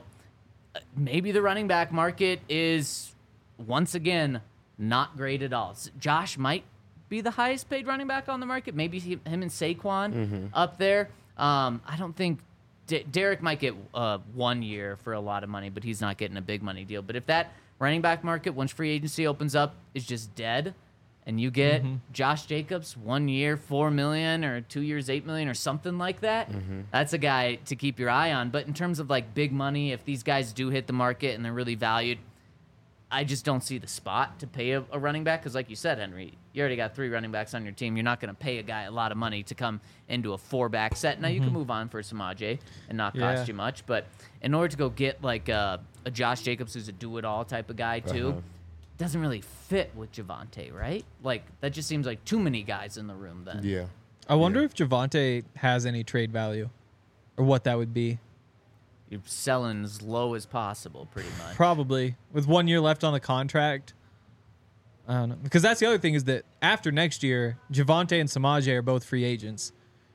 maybe the running back market is once again not great at all. Josh might be the highest paid running back on the market. Maybe him and Saquon up there. I don't think Derek might get 1 year for a lot of money, but he's not getting a big money deal. But if that running back market, once free agency opens up, is just dead, and you get Josh Jacobs 1 year, $4 million, or 2 years, $8 million, or something like that, that's a guy to keep your eye on. But in terms of like big money, if these guys do hit the market and they're really valued, I just don't see the spot to pay a running back because, like you said, Henry, you already got 3 running backs on your team. You're not going to pay a guy a lot of money to come into a 4-back set. Now, you can move on for Samaje and not cost you much, but in order to go get like a Josh Jacobs who's a do-it-all type of guy too, doesn't really fit with Javonte, right? Like, that just seems like too many guys in the room then. Yeah. I wonder if Javonte has any trade value or what that would be. You're selling as low as possible, pretty much. Probably. With 1 year left on the contract. I don't know. Because that's the other thing is that after next year, Javonte and Samaje are both free agents.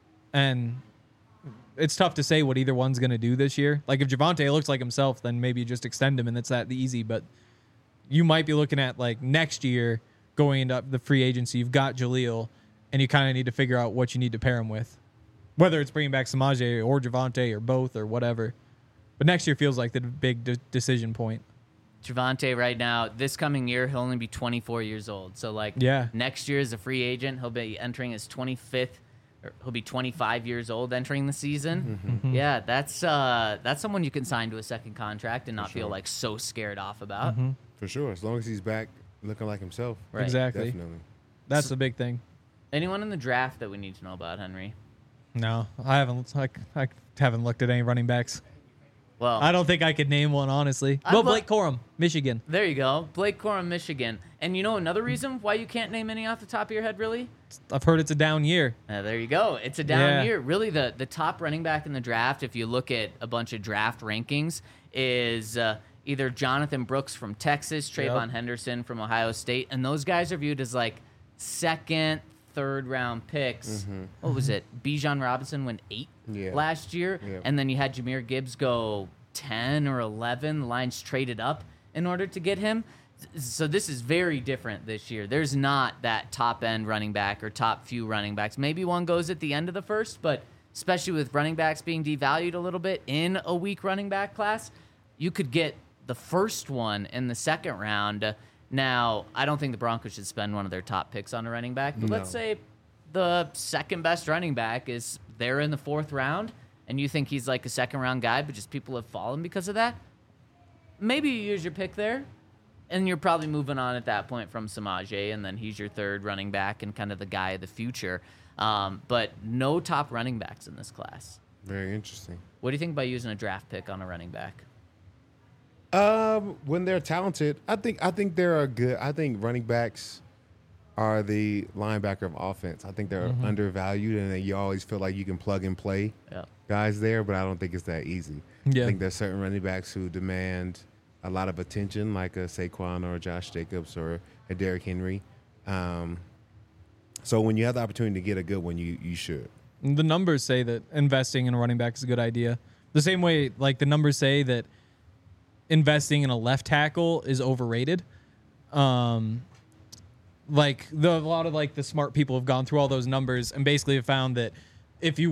And it's tough to say what either one's going to do this year. Like, if Javonte looks like himself, then maybe you just extend him and it's that easy. But you might be looking at, like, next year going into the free agency. You've got Jaleel, and you kind of need to figure out what you need to pair him with. Whether it's bringing back Samaje or Javonte or both or whatever. But next year feels like the big decision point. Javonte right now, this coming year, he'll only be 24 years old. So, like, next year as a free agent, he'll be entering his 25th, or he'll be 25 years old entering the season. Yeah, that's someone you can sign to a second contract and not feel, like, so scared off about. For sure. As long as he's back looking like himself. Right. Exactly. Definitely. That's the big thing. Anyone in the draft that we need to know about, Henry? No, I haven't. I haven't looked at any running backs. Well, I don't think I could name one, honestly. Well, Blake Corum, Michigan. There you go. Blake Corum, Michigan. And you know another reason why you can't name any off the top of your head, really? I've heard it's a down year. There you go. It's a down year. Really, the top running back in the draft, if you look at a bunch of draft rankings, is either Jonathan Brooks from Texas, Trayvon Henderson from Ohio State, and those guys are viewed as like second, third-round picks. What was it? Bijan Robinson went 8 last year, and then you had Jahmyr Gibbs go 10 or 11. The Lions traded up in order to get him. So this is very different this year. There's not that top end running back or top few running backs. Maybe one goes at the end of the first, but especially with running backs being devalued a little bit in a weak running back class, you could get the first one in the second round. Now, I don't think the Broncos should spend one of their top picks on a running back, but let's say the second best running back is there in the fourth round, and you think he's like a second round guy, but just people have fallen because of that. Maybe you use your pick there. And you're probably moving on at that point from Samaje, and then he's your third running back and kind of the guy of the future. But no top running backs in this class. Very interesting. What do you think about using a draft pick on a running back? When they're talented, I think they're good. I think running backs are the linebacker of offense. I think they're undervalued, and then you always feel like you can plug and play guys there, but I don't think it's that easy. Yeah. I think there's certain running backs who demand a lot of attention, like a Saquon or a Josh Jacobs or a Derrick Henry. So when you have the opportunity to get a good one, you should. The numbers say that investing in a running back is a good idea. The same way, like, the numbers say that investing in a left tackle is overrated. Like, a lot of the smart people have gone through all those numbers and basically have found that if you've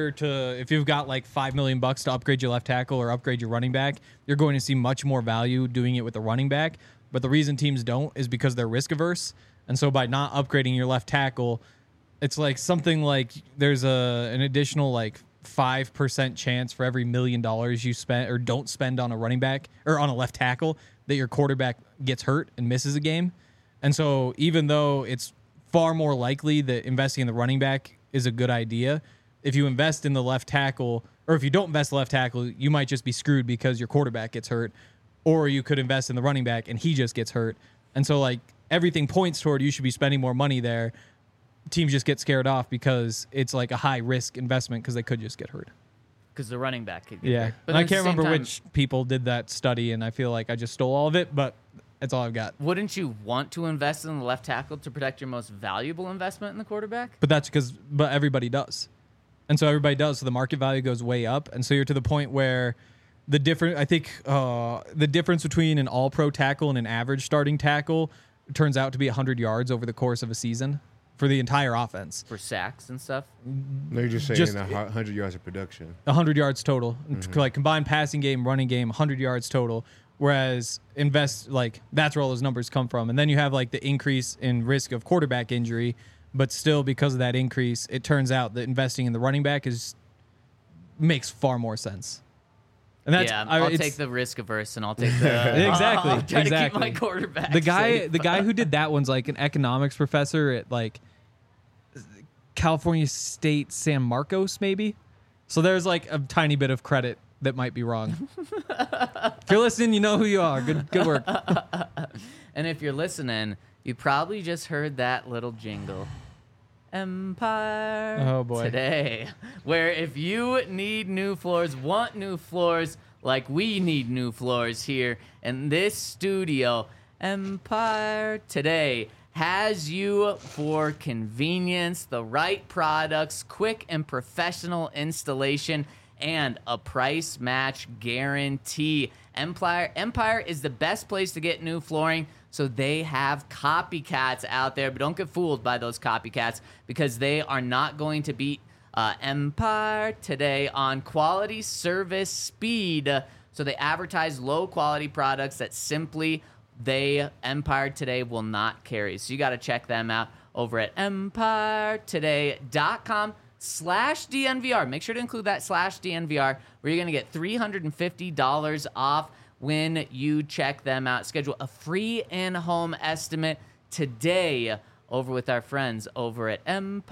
got like $5 million to upgrade your left tackle or upgrade your running back, you're going to see much more value doing it with the running back. But the reason teams don't is because they're risk averse. And so by not upgrading your left tackle, it's like something like there's an additional 5% chance for every $1 million you spend or don't spend on a running back or on a left tackle that your quarterback gets hurt and misses a game. And so even though it's far more likely that investing in the running back is a good idea, if you invest in the left tackle, or if you don't invest in the left tackle, you might just be screwed because your quarterback gets hurt, or you could invest in the running back and he just gets hurt. And so everything points toward you should be spending more money there. Teams just get scared off because it's like a high risk investment because they could just get hurt. Because the running back could get hurt. But I can't remember which people did that study, and I feel like I just stole all of it, but that's all I've got. Wouldn't you want to invest in the left tackle to protect your most valuable investment in the quarterback? But everybody does. And so everybody does. So the market value goes way up. And so you're to the point where the difference between an all-pro tackle and an average starting tackle turns out to be 100 yards over the course of a season for the entire offense. For sacks and stuff? No, you're just saying 100 yards of production. 100 yards total. Like combined passing game, running game, 100 yards total. Whereas that's where all those numbers come from. And then you have the increase in risk of quarterback injury, but still because of that increase, it turns out that investing in the running back makes far more sense. And that's, I'll take the risk averse and I'll take the exactly. I'll try to keep my quarterback. The guy who did that one's like an economics professor at California State San Marcos, maybe. So there's a tiny bit of credit that might be wrong. If you're listening, you know who you are. Good work. And if you're listening, you probably just heard that little jingle. Empire oh boy. Today, where if you need new floors, want new floors, like we need new floors here in this studio, Empire Today has you for convenience, the right products, quick and professional installation, and a price match guarantee. Empire is the best place to get new flooring, so they have copycats out there, but don't get fooled by those copycats because they are not going to beat Empire Today on quality, service, speed. So they advertise low-quality products that simply Empire Today will not carry. So you got to check them out over at empiretoday.com/DNVR. Make sure to include that /DNVR, where you're going to get $350 off when you check them out. Schedule a free in-home estimate today over with our friends over at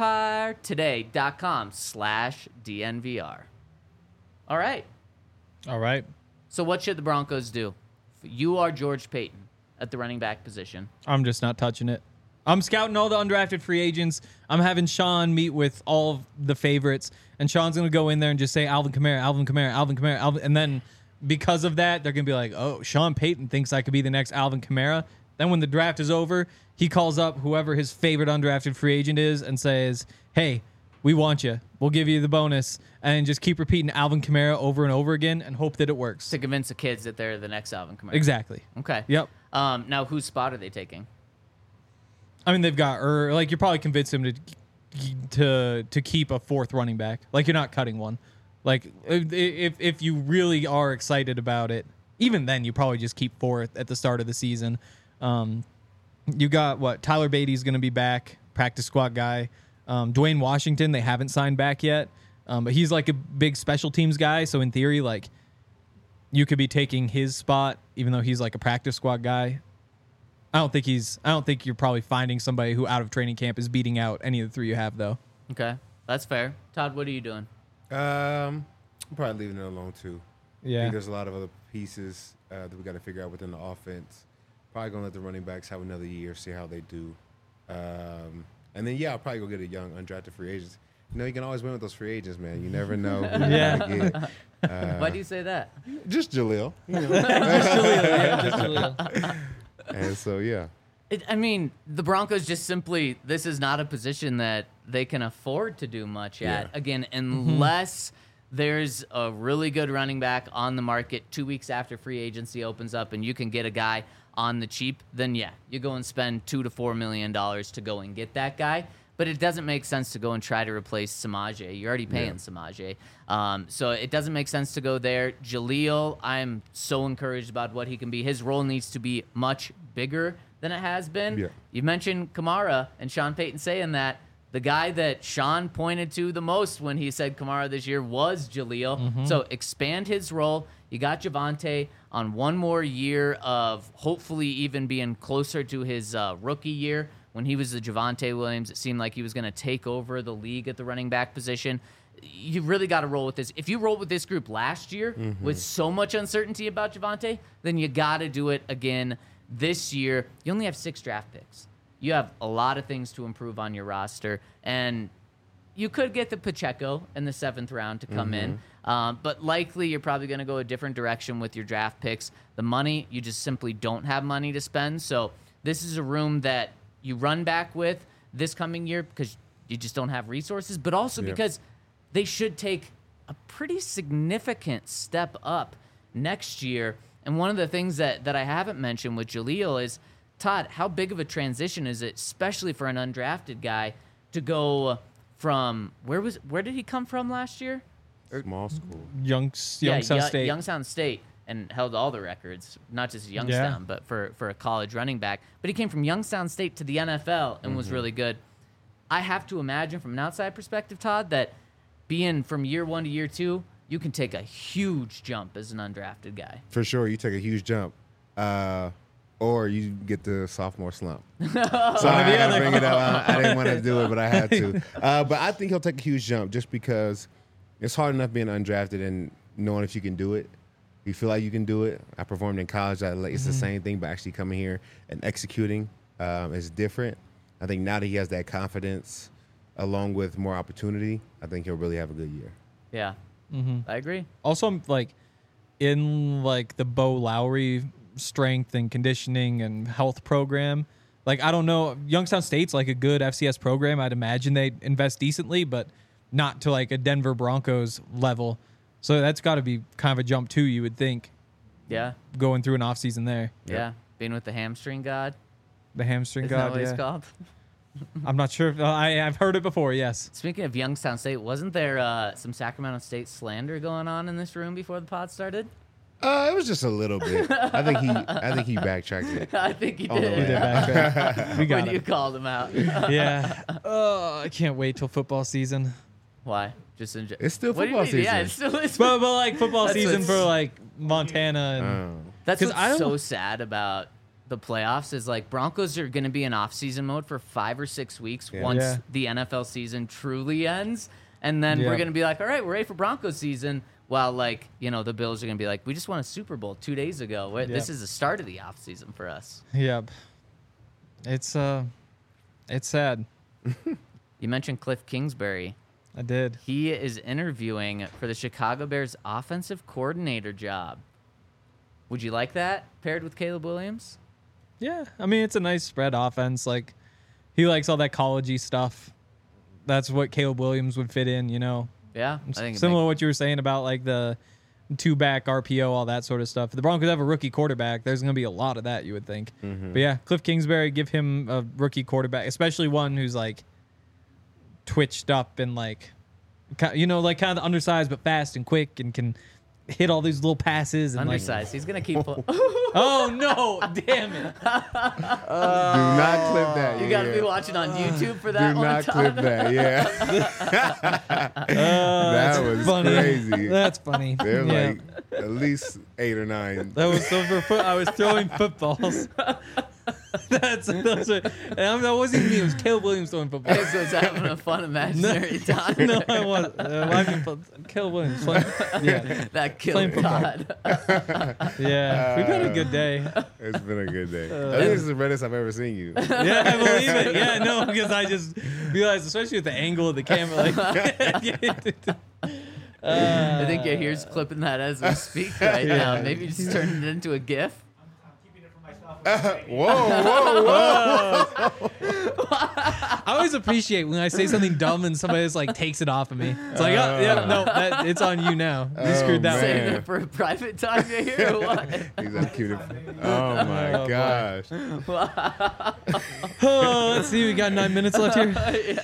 empiretoday.com/DNVR. All right. So what should the Broncos do? You are George Payton at the running back position. I'm just not touching it. I'm scouting all the undrafted free agents. I'm having Sean meet with all of the favorites, and Sean's going to go in there and just say Alvin Kamara, and then because of that, they're going to be like, oh, Sean Payton thinks I could be the next Alvin Kamara. Then when the draft is over, he calls up whoever his favorite undrafted free agent is and says, hey, we want you. We'll give you the bonus. And just keep repeating Alvin Kamara over and over again and hope that it works. To convince the kids that they're the next Alvin Kamara. Exactly. Okay. Yep. Now, whose spot are they taking? I mean, they've got like you're probably convinced him to keep a fourth running back. Like you're not cutting one. Like if you really are excited about it, even then you probably just keep fourth at the start of the season. You got Tyler Beatty's going to be back, practice squad guy. Dwayne Washington they haven't signed back yet, but he's like a big special teams guy. So in theory, like you could be taking his spot, even though he's like a practice squad guy. I don't think you're probably finding somebody who out of training camp is beating out any of the three you have though. Okay, that's fair. Todd, what are you doing? I'm probably leaving it alone too. I Yeah. think there's a lot of other pieces that we got to figure out within the offense. Probably gonna let the running backs have another year, see how they do, and then I'll probably go get a young undrafted free agent. You know, you can always win with those free agents, man. You never know who you're gonna get. Why do you say that? Just Jaleel. You know? Just Jaleel. And so I mean, the Broncos just simply, this is not a position that they can afford to do much at. Yeah. Again, unless there's a really good running back on the market 2 weeks after free agency opens up and you can get a guy on the cheap, then you go and spend $2 to $4 million to go and get that guy. But it doesn't make sense to go and try to replace Samaje. You're already paying Samaje. So it doesn't make sense to go there. Jaleel, I'm so encouraged about what he can be. His role needs to be much bigger than it has been. Yeah. You mentioned Kamara and Sean Payton saying that. The guy that Sean pointed to the most when he said Kamara this year was Jaleel. So expand his role. You got Javonte on one more year of hopefully even being closer to his rookie year. When he was the Javonte Williams, it seemed like he was going to take over the league at the running back position. You really got to roll with this. If you rolled with this group last year with so much uncertainty about Javonte, then you got to do it again this year. You only have 6 draft picks. You have a lot of things to improve on your roster, and you could get the Pacheco in the 7th round to come in, but likely you're probably going to go a different direction with your draft picks. The money, you just simply don't have money to spend, so this is a room that you run back with this coming year because you just don't have resources, but also because they should take a pretty significant step up next year. And one of the things that I haven't mentioned with Jaleel is, Todd, how big of a transition is it, especially for an undrafted guy, to go from where did he come from last year? small school. Youngstown State. Youngstown State, and held all the records, not just Youngstown, but for a college running back. But he came from Youngstown State to the NFL and was really good. I have to imagine from an outside perspective, Todd, that being from year 1 to year 2, you can take a huge jump as an undrafted guy. For sure, you take a huge jump. Or you get the sophomore slump. So I had to bring it up. I didn't want to do it, but I had to. But I think he'll take a huge jump just because it's hard enough being undrafted and knowing if you can do it. You feel like you can do it. I performed in college. It's the same thing, but actually coming here and executing is different. I think now that he has that confidence along with more opportunity, I think he'll really have a good year. Yeah, I agree. Also, like in like the Bo Lowry strength and conditioning and health program, like I don't know, Youngstown State's like a good FCS program. I'd imagine they invest decently, but not to like a Denver Broncos level. So that's got to be kind of a jump too, you would think. Yeah, going through an off season there. Yeah, being with the hamstring god. The hamstring Isn't god. that what he's called? I'm not sure. I've heard it before. Yes. Speaking of Youngstown State, wasn't there some Sacramento State slander going on in this room before the pod started? It was just a little bit. I think he backtracked it. I think he On the did. way We did backtrack. We got When you it. called him out. Yeah. Oh, I can't wait till football season. Why? Just enjoy. It's still What do you football mean? season. Yeah, it's still is. But like football That's season what's- for like Montana and That's 'cause what's I don't- so sad about the playoffs is like Broncos are going to be in off-season mode for 5 or 6 weeks once Yeah. the NFL season truly ends, and then we're Yeah. going to be like, all right, we're ready for Broncos season. While like the Bills are going to be like, we just won a Super Bowl 2 days ago. This is the start of the off-season for us. Yep. It's sad. You mentioned Cliff Kingsbury. I did. He is interviewing for the Chicago Bears offensive coordinator job. Would you like that paired with Caleb Williams? Yeah. I mean, it's a nice spread offense. Like he likes all that college-y stuff. That's what Caleb Williams would fit in, Yeah, I think Similar to what you were saying about like the 2-back RPO, all that sort of stuff. If the Broncos have a rookie quarterback, there's going to be a lot of that, you would think. But yeah, Cliff Kingsbury, give him a rookie quarterback, especially one who's like twitched up and like, you know, like kind of undersized but fast and quick and can hit all these little passes. And Undersized. He's going to keep... Oh, no. Damn it. Do not clip that. You got to be watching on YouTube for that Do one. not clip that. Yeah. That was funny. crazy. That's funny. They're Yeah. like at least 8 or 9. That was so I was throwing footballs. Those are, and that wasn't even me. It was Caleb Williams throwing footballs. Hayes was having a fun imaginary time. No, I wasn't. Caleb Williams. Yeah, That Playing killed football. Todd. yeah. We've had a good day. It's been a good day. I think this is the reddest I've ever seen you. Yeah, I believe it. Yeah, no, because I just realized, especially with the angle of the camera, like. I think Yahir's clipping that as we speak right now. Maybe just turn it into a GIF. Whoa. I always appreciate when I say something dumb and somebody just like takes it off of me. It's like, oh, yeah, no, it's on you now. You screwed that Saving man. it for a private time, Yahir, or what? He's like cute. Oh my gosh. Oh, let's see. We got 9 minutes left here.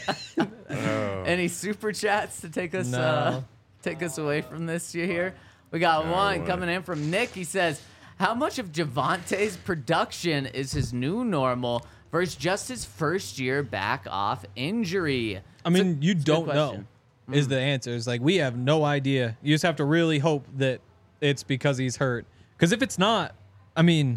Any super chats to take us No. away from this Yahir? We got one coming in from Nick. He says, how much of Javante's production is his new normal versus just his first year back off injury? I mean, you a good don't know question. is the answer. It's like, we have no idea. You just have to really hope that it's because he's hurt. Because if it's not, I mean,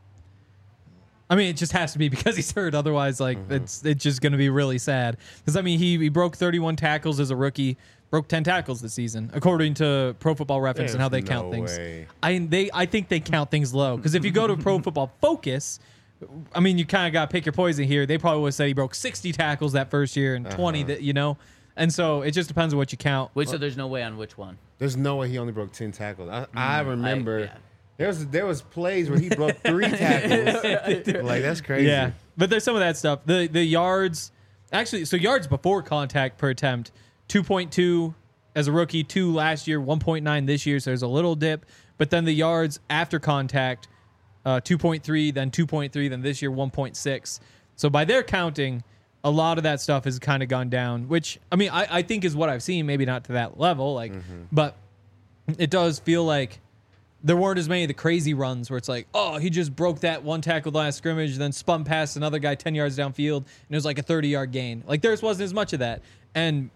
it just has to be because he's hurt. Otherwise, like, it's just going to be really sad. Because, I mean, he broke 31 tackles as a rookie, broke 10 tackles this season, according to Pro Football Reference and how they count things. Way. I think they count things low. Because if you go to Pro Football Focus, I mean, you kind of got to pick your poison here. They probably would say he broke 60 tackles that first year and 20 that, you know. And so it just depends on what you count. Wait, so there's no way on which one? There's no way he only broke 10 tackles. I remember yeah. there was plays where he broke 3 tackles. Like, that's crazy. Yeah, but there's some of that stuff. The yards, actually, so yards before contact per attempt, 2.2 as a rookie, 2 last year, 1.9 this year. So there's a little dip. But then the yards after contact, 2.3, then 2.3, then this year 1.6. So by their counting, a lot of that stuff has kind of gone down, which I mean I think is what I've seen. Maybe not to that level, like, but it does feel like there weren't as many of the crazy runs where it's like, oh, he just broke that one tackle last scrimmage, then spun past another guy 10 yards downfield, and it was like a 30-yard gain. Like, theirs wasn't as much of that. And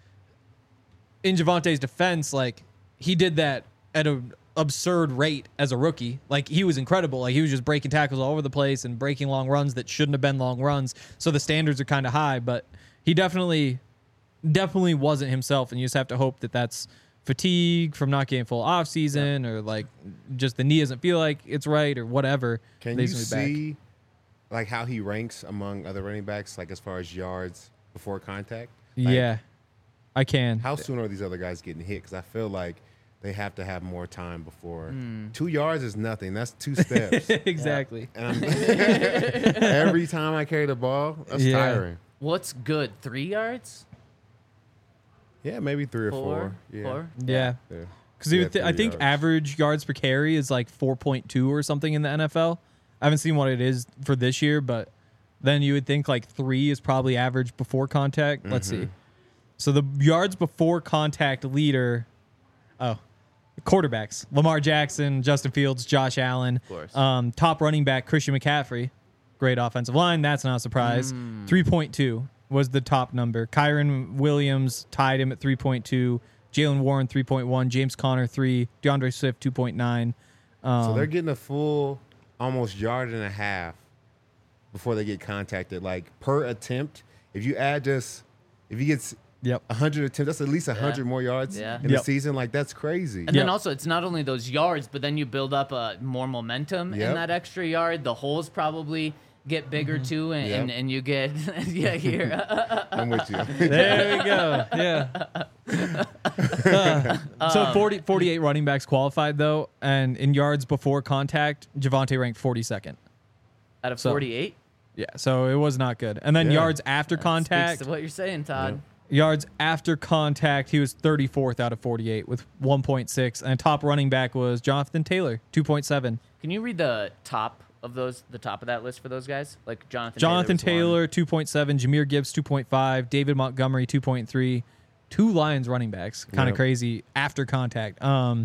in Javante's defense, like, he did that at an absurd rate as a rookie. Like, he was incredible. Like, he was just breaking tackles all over the place and breaking long runs that shouldn't have been long runs. So the standards are kind of high, but he definitely wasn't himself, and you just have to hope that that's fatigue from not getting full off season, or like just the knee doesn't feel like it's right, or whatever. Can you see like how he ranks among other running backs, like as far as yards before contact? Like, Yeah, I can. How soon are these other guys getting hit? Because I feel like they have to have more time before. 2 yards is nothing. That's 2 steps. Exactly. And every time I carry the ball, that's tiring. What's good? 3 yards? Yeah, maybe 3 or 4. 4? Yeah. 4? Yeah. Yeah. Because Yeah, I 3 think yards. average yards per carry is like 4.2 or something in the NFL. I haven't seen what it is for this year, but then you would think like 3 is probably average before contact. Let's see. So the yards before contact leader, quarterbacks: Lamar Jackson, Justin Fields, Josh Allen. Of course. Top running back Christian McCaffrey. Great offensive line. That's not a surprise. 3.2 was the top number. Kyron Williams tied him at 3.2. Jalen Warren 3.1. James Conner 3. DeAndre Swift 2.9. So they're getting a full almost yard and a half before they get contacted. Like, per attempt, if you get 100 attempts, that's at least 100 more yards in the season. Like, that's crazy. And then also, it's not only those yards, but then you build up more momentum in that extra yard. The holes probably get bigger too, and you get here. I'm with you. There we go. Yeah. So 48 running backs qualified, though. And in yards before contact, Javonte ranked 42nd. Out of 48? Yeah, so it was not good. And then yards after contact. Speaks to what you're saying, Todd. Yards after contact, he was 34th out of 48 with 1.6. And top running back was Jonathan Taylor, 2.7. Can you read the top of that list for those guys? Like Jonathan Taylor 2.7, Jahmyr Gibbs 2.5, David Montgomery 2.3, 2 Lions running backs, kind of crazy after contact.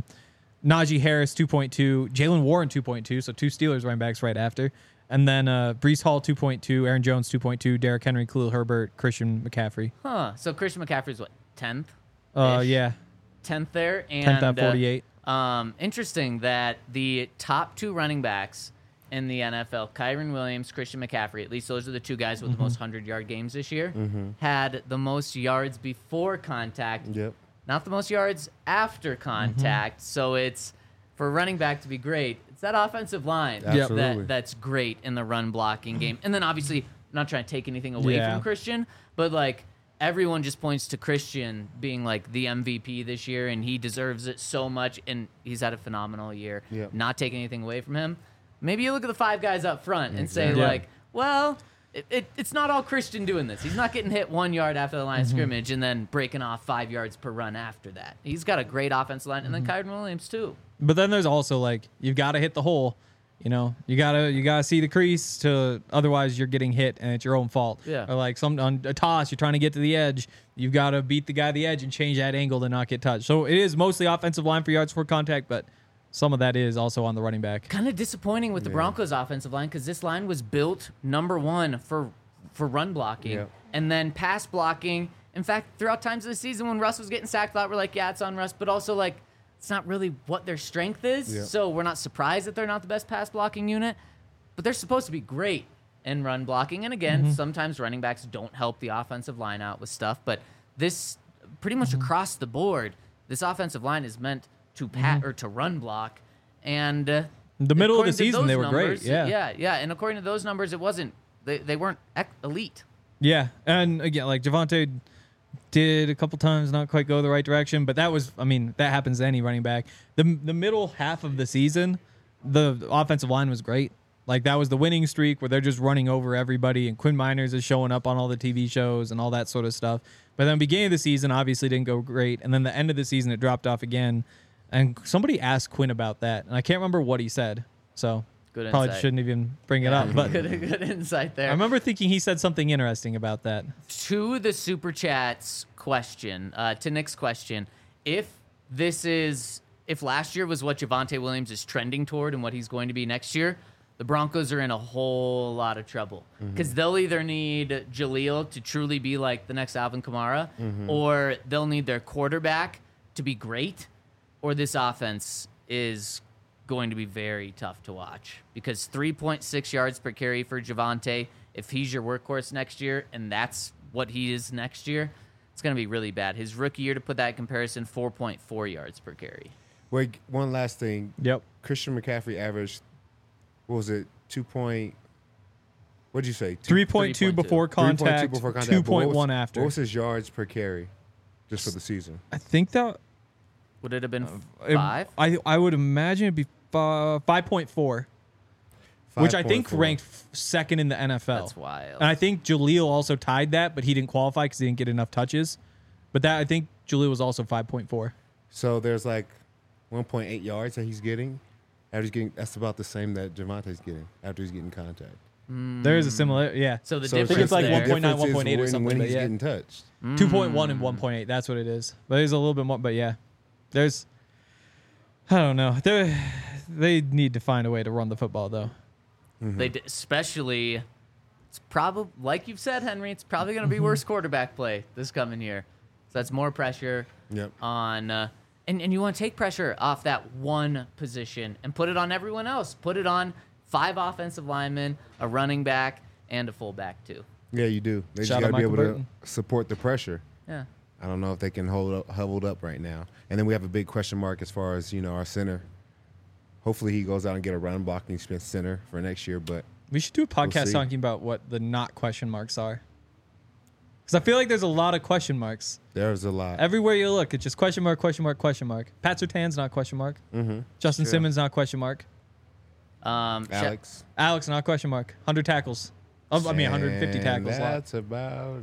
Najee Harris 2.2, Jalen Warren 2.2, so 2 Steelers running backs right after. And then Breece Hall 2.2, Aaron Jones 2.2, Derrick Henry, Khalil Herbert, Christian McCaffrey. Huh. So Christian McCaffrey's what, 10th? Yeah. 10th there. And 10th out of 48. Interesting that the top 2 running backs in the NFL, Kyren Williams, Christian McCaffrey, at least those are the 2 guys with the most 100-yard games this year, had the most yards before contact, not the most yards after contact. So it's, for a running back to be great, it's that offensive line that's great in the run blocking game. And then obviously, I'm not trying to take anything away from Christian, but like everyone just points to Christian being like the MVP this year, and he deserves it so much, and he's had a phenomenal year. Not taking anything away from him. Maybe you look at the 5 guys up front and say, like, well, it's not all Christian doing this. He's not getting hit 1 yard after the line of scrimmage and then breaking off 5 yards per run after that. He's got a great offensive line, and then Kyren Williams too. But then there's also like, you've got to hit the hole. You know, you gotta see the crease otherwise you're getting hit and it's your own fault. Yeah. Or like on a toss, you're trying to get to the edge. You've got to beat the guy at the edge and change that angle to not get touched. So it is mostly offensive line for yards for contact, but some of that is also on the running back. Kind of disappointing with the Broncos' offensive line because this line was built number 1 for run blocking and then pass blocking. In fact, throughout times of the season when Russ was getting sacked, thought we're like, yeah, it's on Russ, but also like it's not really what their strength is. So we're not surprised that they're not the best pass blocking unit, but they're supposed to be great in run blocking. And again, sometimes running backs don't help the offensive line out with stuff, but this pretty much across the board, this offensive line is meant to or to run block, and the middle of the season they were great. And according to those numbers, it wasn't they weren't elite. Yeah, and again, like Javonte did a couple times not quite go the right direction, but that was, I mean, that happens to any running back. The middle half of the season, the offensive line was great. Like that was the winning streak where they're just running over everybody, and Quinn Miners is showing up on all the TV shows and all that sort of stuff. But then the beginning of the season obviously didn't go great, and then the end of the season it dropped off again. And somebody asked Quinn about that, and I can't remember what he said. So good probably insight. shouldn't even bring it up. But good insight there. I remember thinking he said something interesting about that. To the Super Chats question, to Nick's question, if last year was what Javonte Williams is trending toward and what he's going to be next year, the Broncos are in a whole lot of trouble because they'll either need Jaleel to truly be like the next Alvin Kamara, or they'll need their quarterback to be great, or this offense is going to be very tough to watch because 3.6 yards per carry for Javonte, if he's your workhorse next year, and that's what he is next year, it's going to be really bad. His rookie year, to put that in comparison, 4.4 yards per carry. Wait, one last thing. Yep. Christian McCaffrey averaged, what was it, what'd you say? 3.2 before contact, 2.1 after. What was his yards per carry just for the season? I think that... Would it have been 5? I would imagine it'd be 5.4. Which I think ranked second in the NFL. That's wild. And I think Jaleel also tied that, but he didn't qualify because he didn't get enough touches. But that I think Jaleel was also 5.4. So there's like 1.8 yards that he's getting. That's about the same that Javonte's getting after he's getting contact. There is a similar, yeah. So the I difference think it's like there, 1.9, 1.8 or something. When but he's yeah. getting touched. 2.1 and 1.8. That's what it is. But there's a little bit more. But yeah, there's, I don't know. They need to find a way to run the football though. Especially, it's probably, like you've said, Henry, it's probably going to be worse quarterback play this coming year. So that's more pressure on, and you want to take pressure off that one position and put it on everyone else. Put it on 5 offensive linemen, a running back, and a fullback too. Yeah, you do. They just Shout got out to be able Michael Burton. to support the pressure. Yeah. I don't know if they can hold up right now. And then we have a big question mark as far as, our center. Hopefully he goes out and get a run blocking Smith center for next year. But we should do a podcast see. talking about what the not question marks are. Because I feel like there's a lot of question marks. There's a lot. Everywhere you look, it's just question mark, question mark, question mark. Pat Surtain's not question mark. Justin Sure. Simmons not question mark. Alex. Alex not question mark. 100 tackles. I mean, 150 tackles. That's about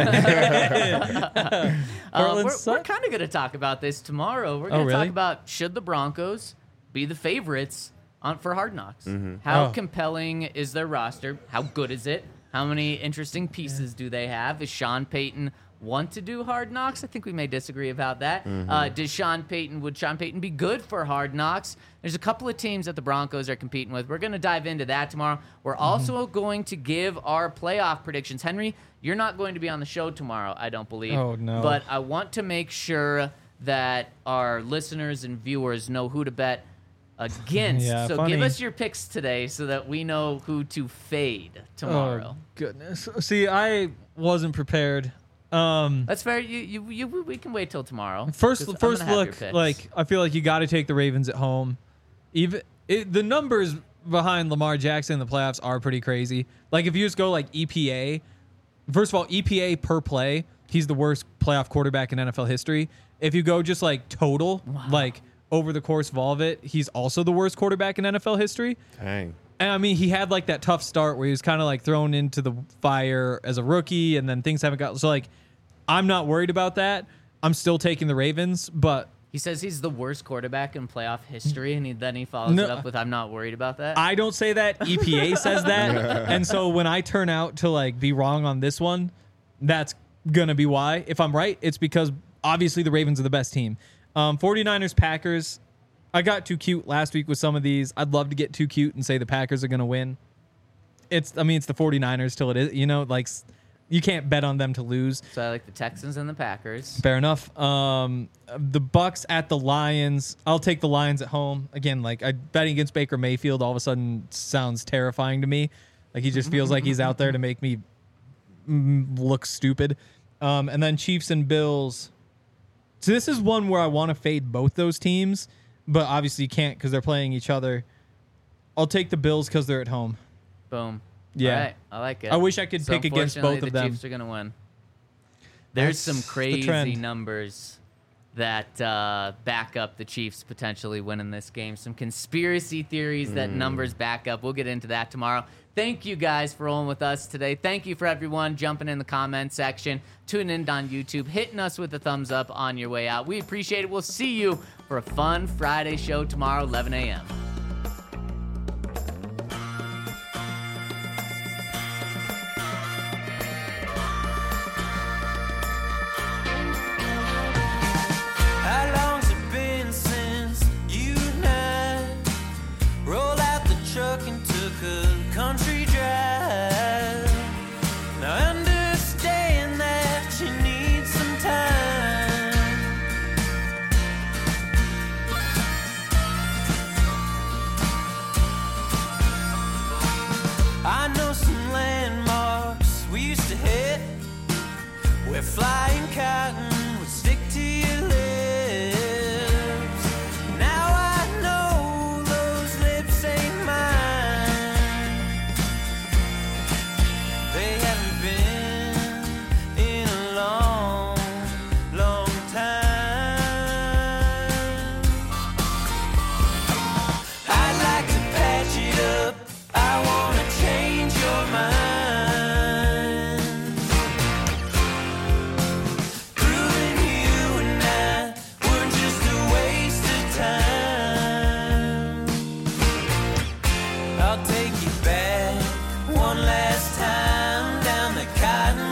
it. We're kind of going to talk about this tomorrow. We're going to really? talk about should the Broncos be the favorites for Hard Knocks? How compelling is their roster? How good is it? How many interesting pieces do they have? Is Sean Payton want to do Hard Knocks? I think we may disagree about that. Would Sean Payton be good for Hard Knocks? There's a couple of teams that the Broncos are competing with. We're going to dive into that tomorrow. We're also going to give our playoff predictions. Henry, you're not going to be on the show tomorrow, I don't believe. Oh, no. But I want to make sure that our listeners and viewers know who to bet against. Yeah, so funny. give us your picks today so that we know who to fade tomorrow. Oh, goodness. See, I wasn't prepared. That's fair. We can wait till tomorrow. 'Cause First I'm gonna have your look, picks. like I feel like you got to take the Ravens at home. The numbers behind Lamar Jackson in the playoffs are pretty crazy. Like if you just go like EPA, first of all, EPA per play, he's the worst playoff quarterback in NFL history. If you go just like total, like over the course of all of it, he's also the worst quarterback in NFL history. Dang. And I mean, he had like that tough start where he was kind of like thrown into the fire as a rookie, and then things haven't got so like. I'm not worried about that. I'm still taking the Ravens, but he says he's the worst quarterback in playoff history, and then he follows it up with, "I'm not worried about that." I don't say that. EPA says that, and so when I turn out to like be wrong on this one, that's gonna be why. If I'm right, it's because obviously the Ravens are the best team. 49ers, Packers. I got too cute last week with some of these. I'd love to get too cute and say the Packers are gonna win. It's the 49ers till it is. Like. You can't bet on them to lose. So I like the Texans and the Packers. Fair enough. The Bucks at the Lions. I'll take the Lions at home. Again, like betting against Baker Mayfield all of a sudden sounds terrifying to me. Like he just feels like he's out there to make me look stupid. And then Chiefs and Bills. So this is one where I want to fade both those teams, but obviously you can't because they're playing each other. I'll take the Bills because they're at home. Boom. Yeah. All right. I like it. I wish I could pick against both of the them. Chiefs are going to win. There's some That's the crazy trend. numbers that back up the Chiefs potentially winning this game. Some conspiracy theories that numbers back up. We'll get into that tomorrow. Thank you guys for rolling with us today. Thank you for everyone jumping in the comment section, tuning in on YouTube, hitting us with a thumbs up on your way out. We appreciate it. We'll see you for a fun Friday show tomorrow, 11 a.m. How long's it been since you and I rolled out the truck and took a country drive? Now I understand that you need some time. I know some landmarks we used to hit where flying cotton would stick to your lips. Now I know those lips ain't mine. They haven't been in a long, long time. I'd like to patch it up. I wanna change your mind. Proving you and I were just a waste of time. I'll take you back one last time down the cotton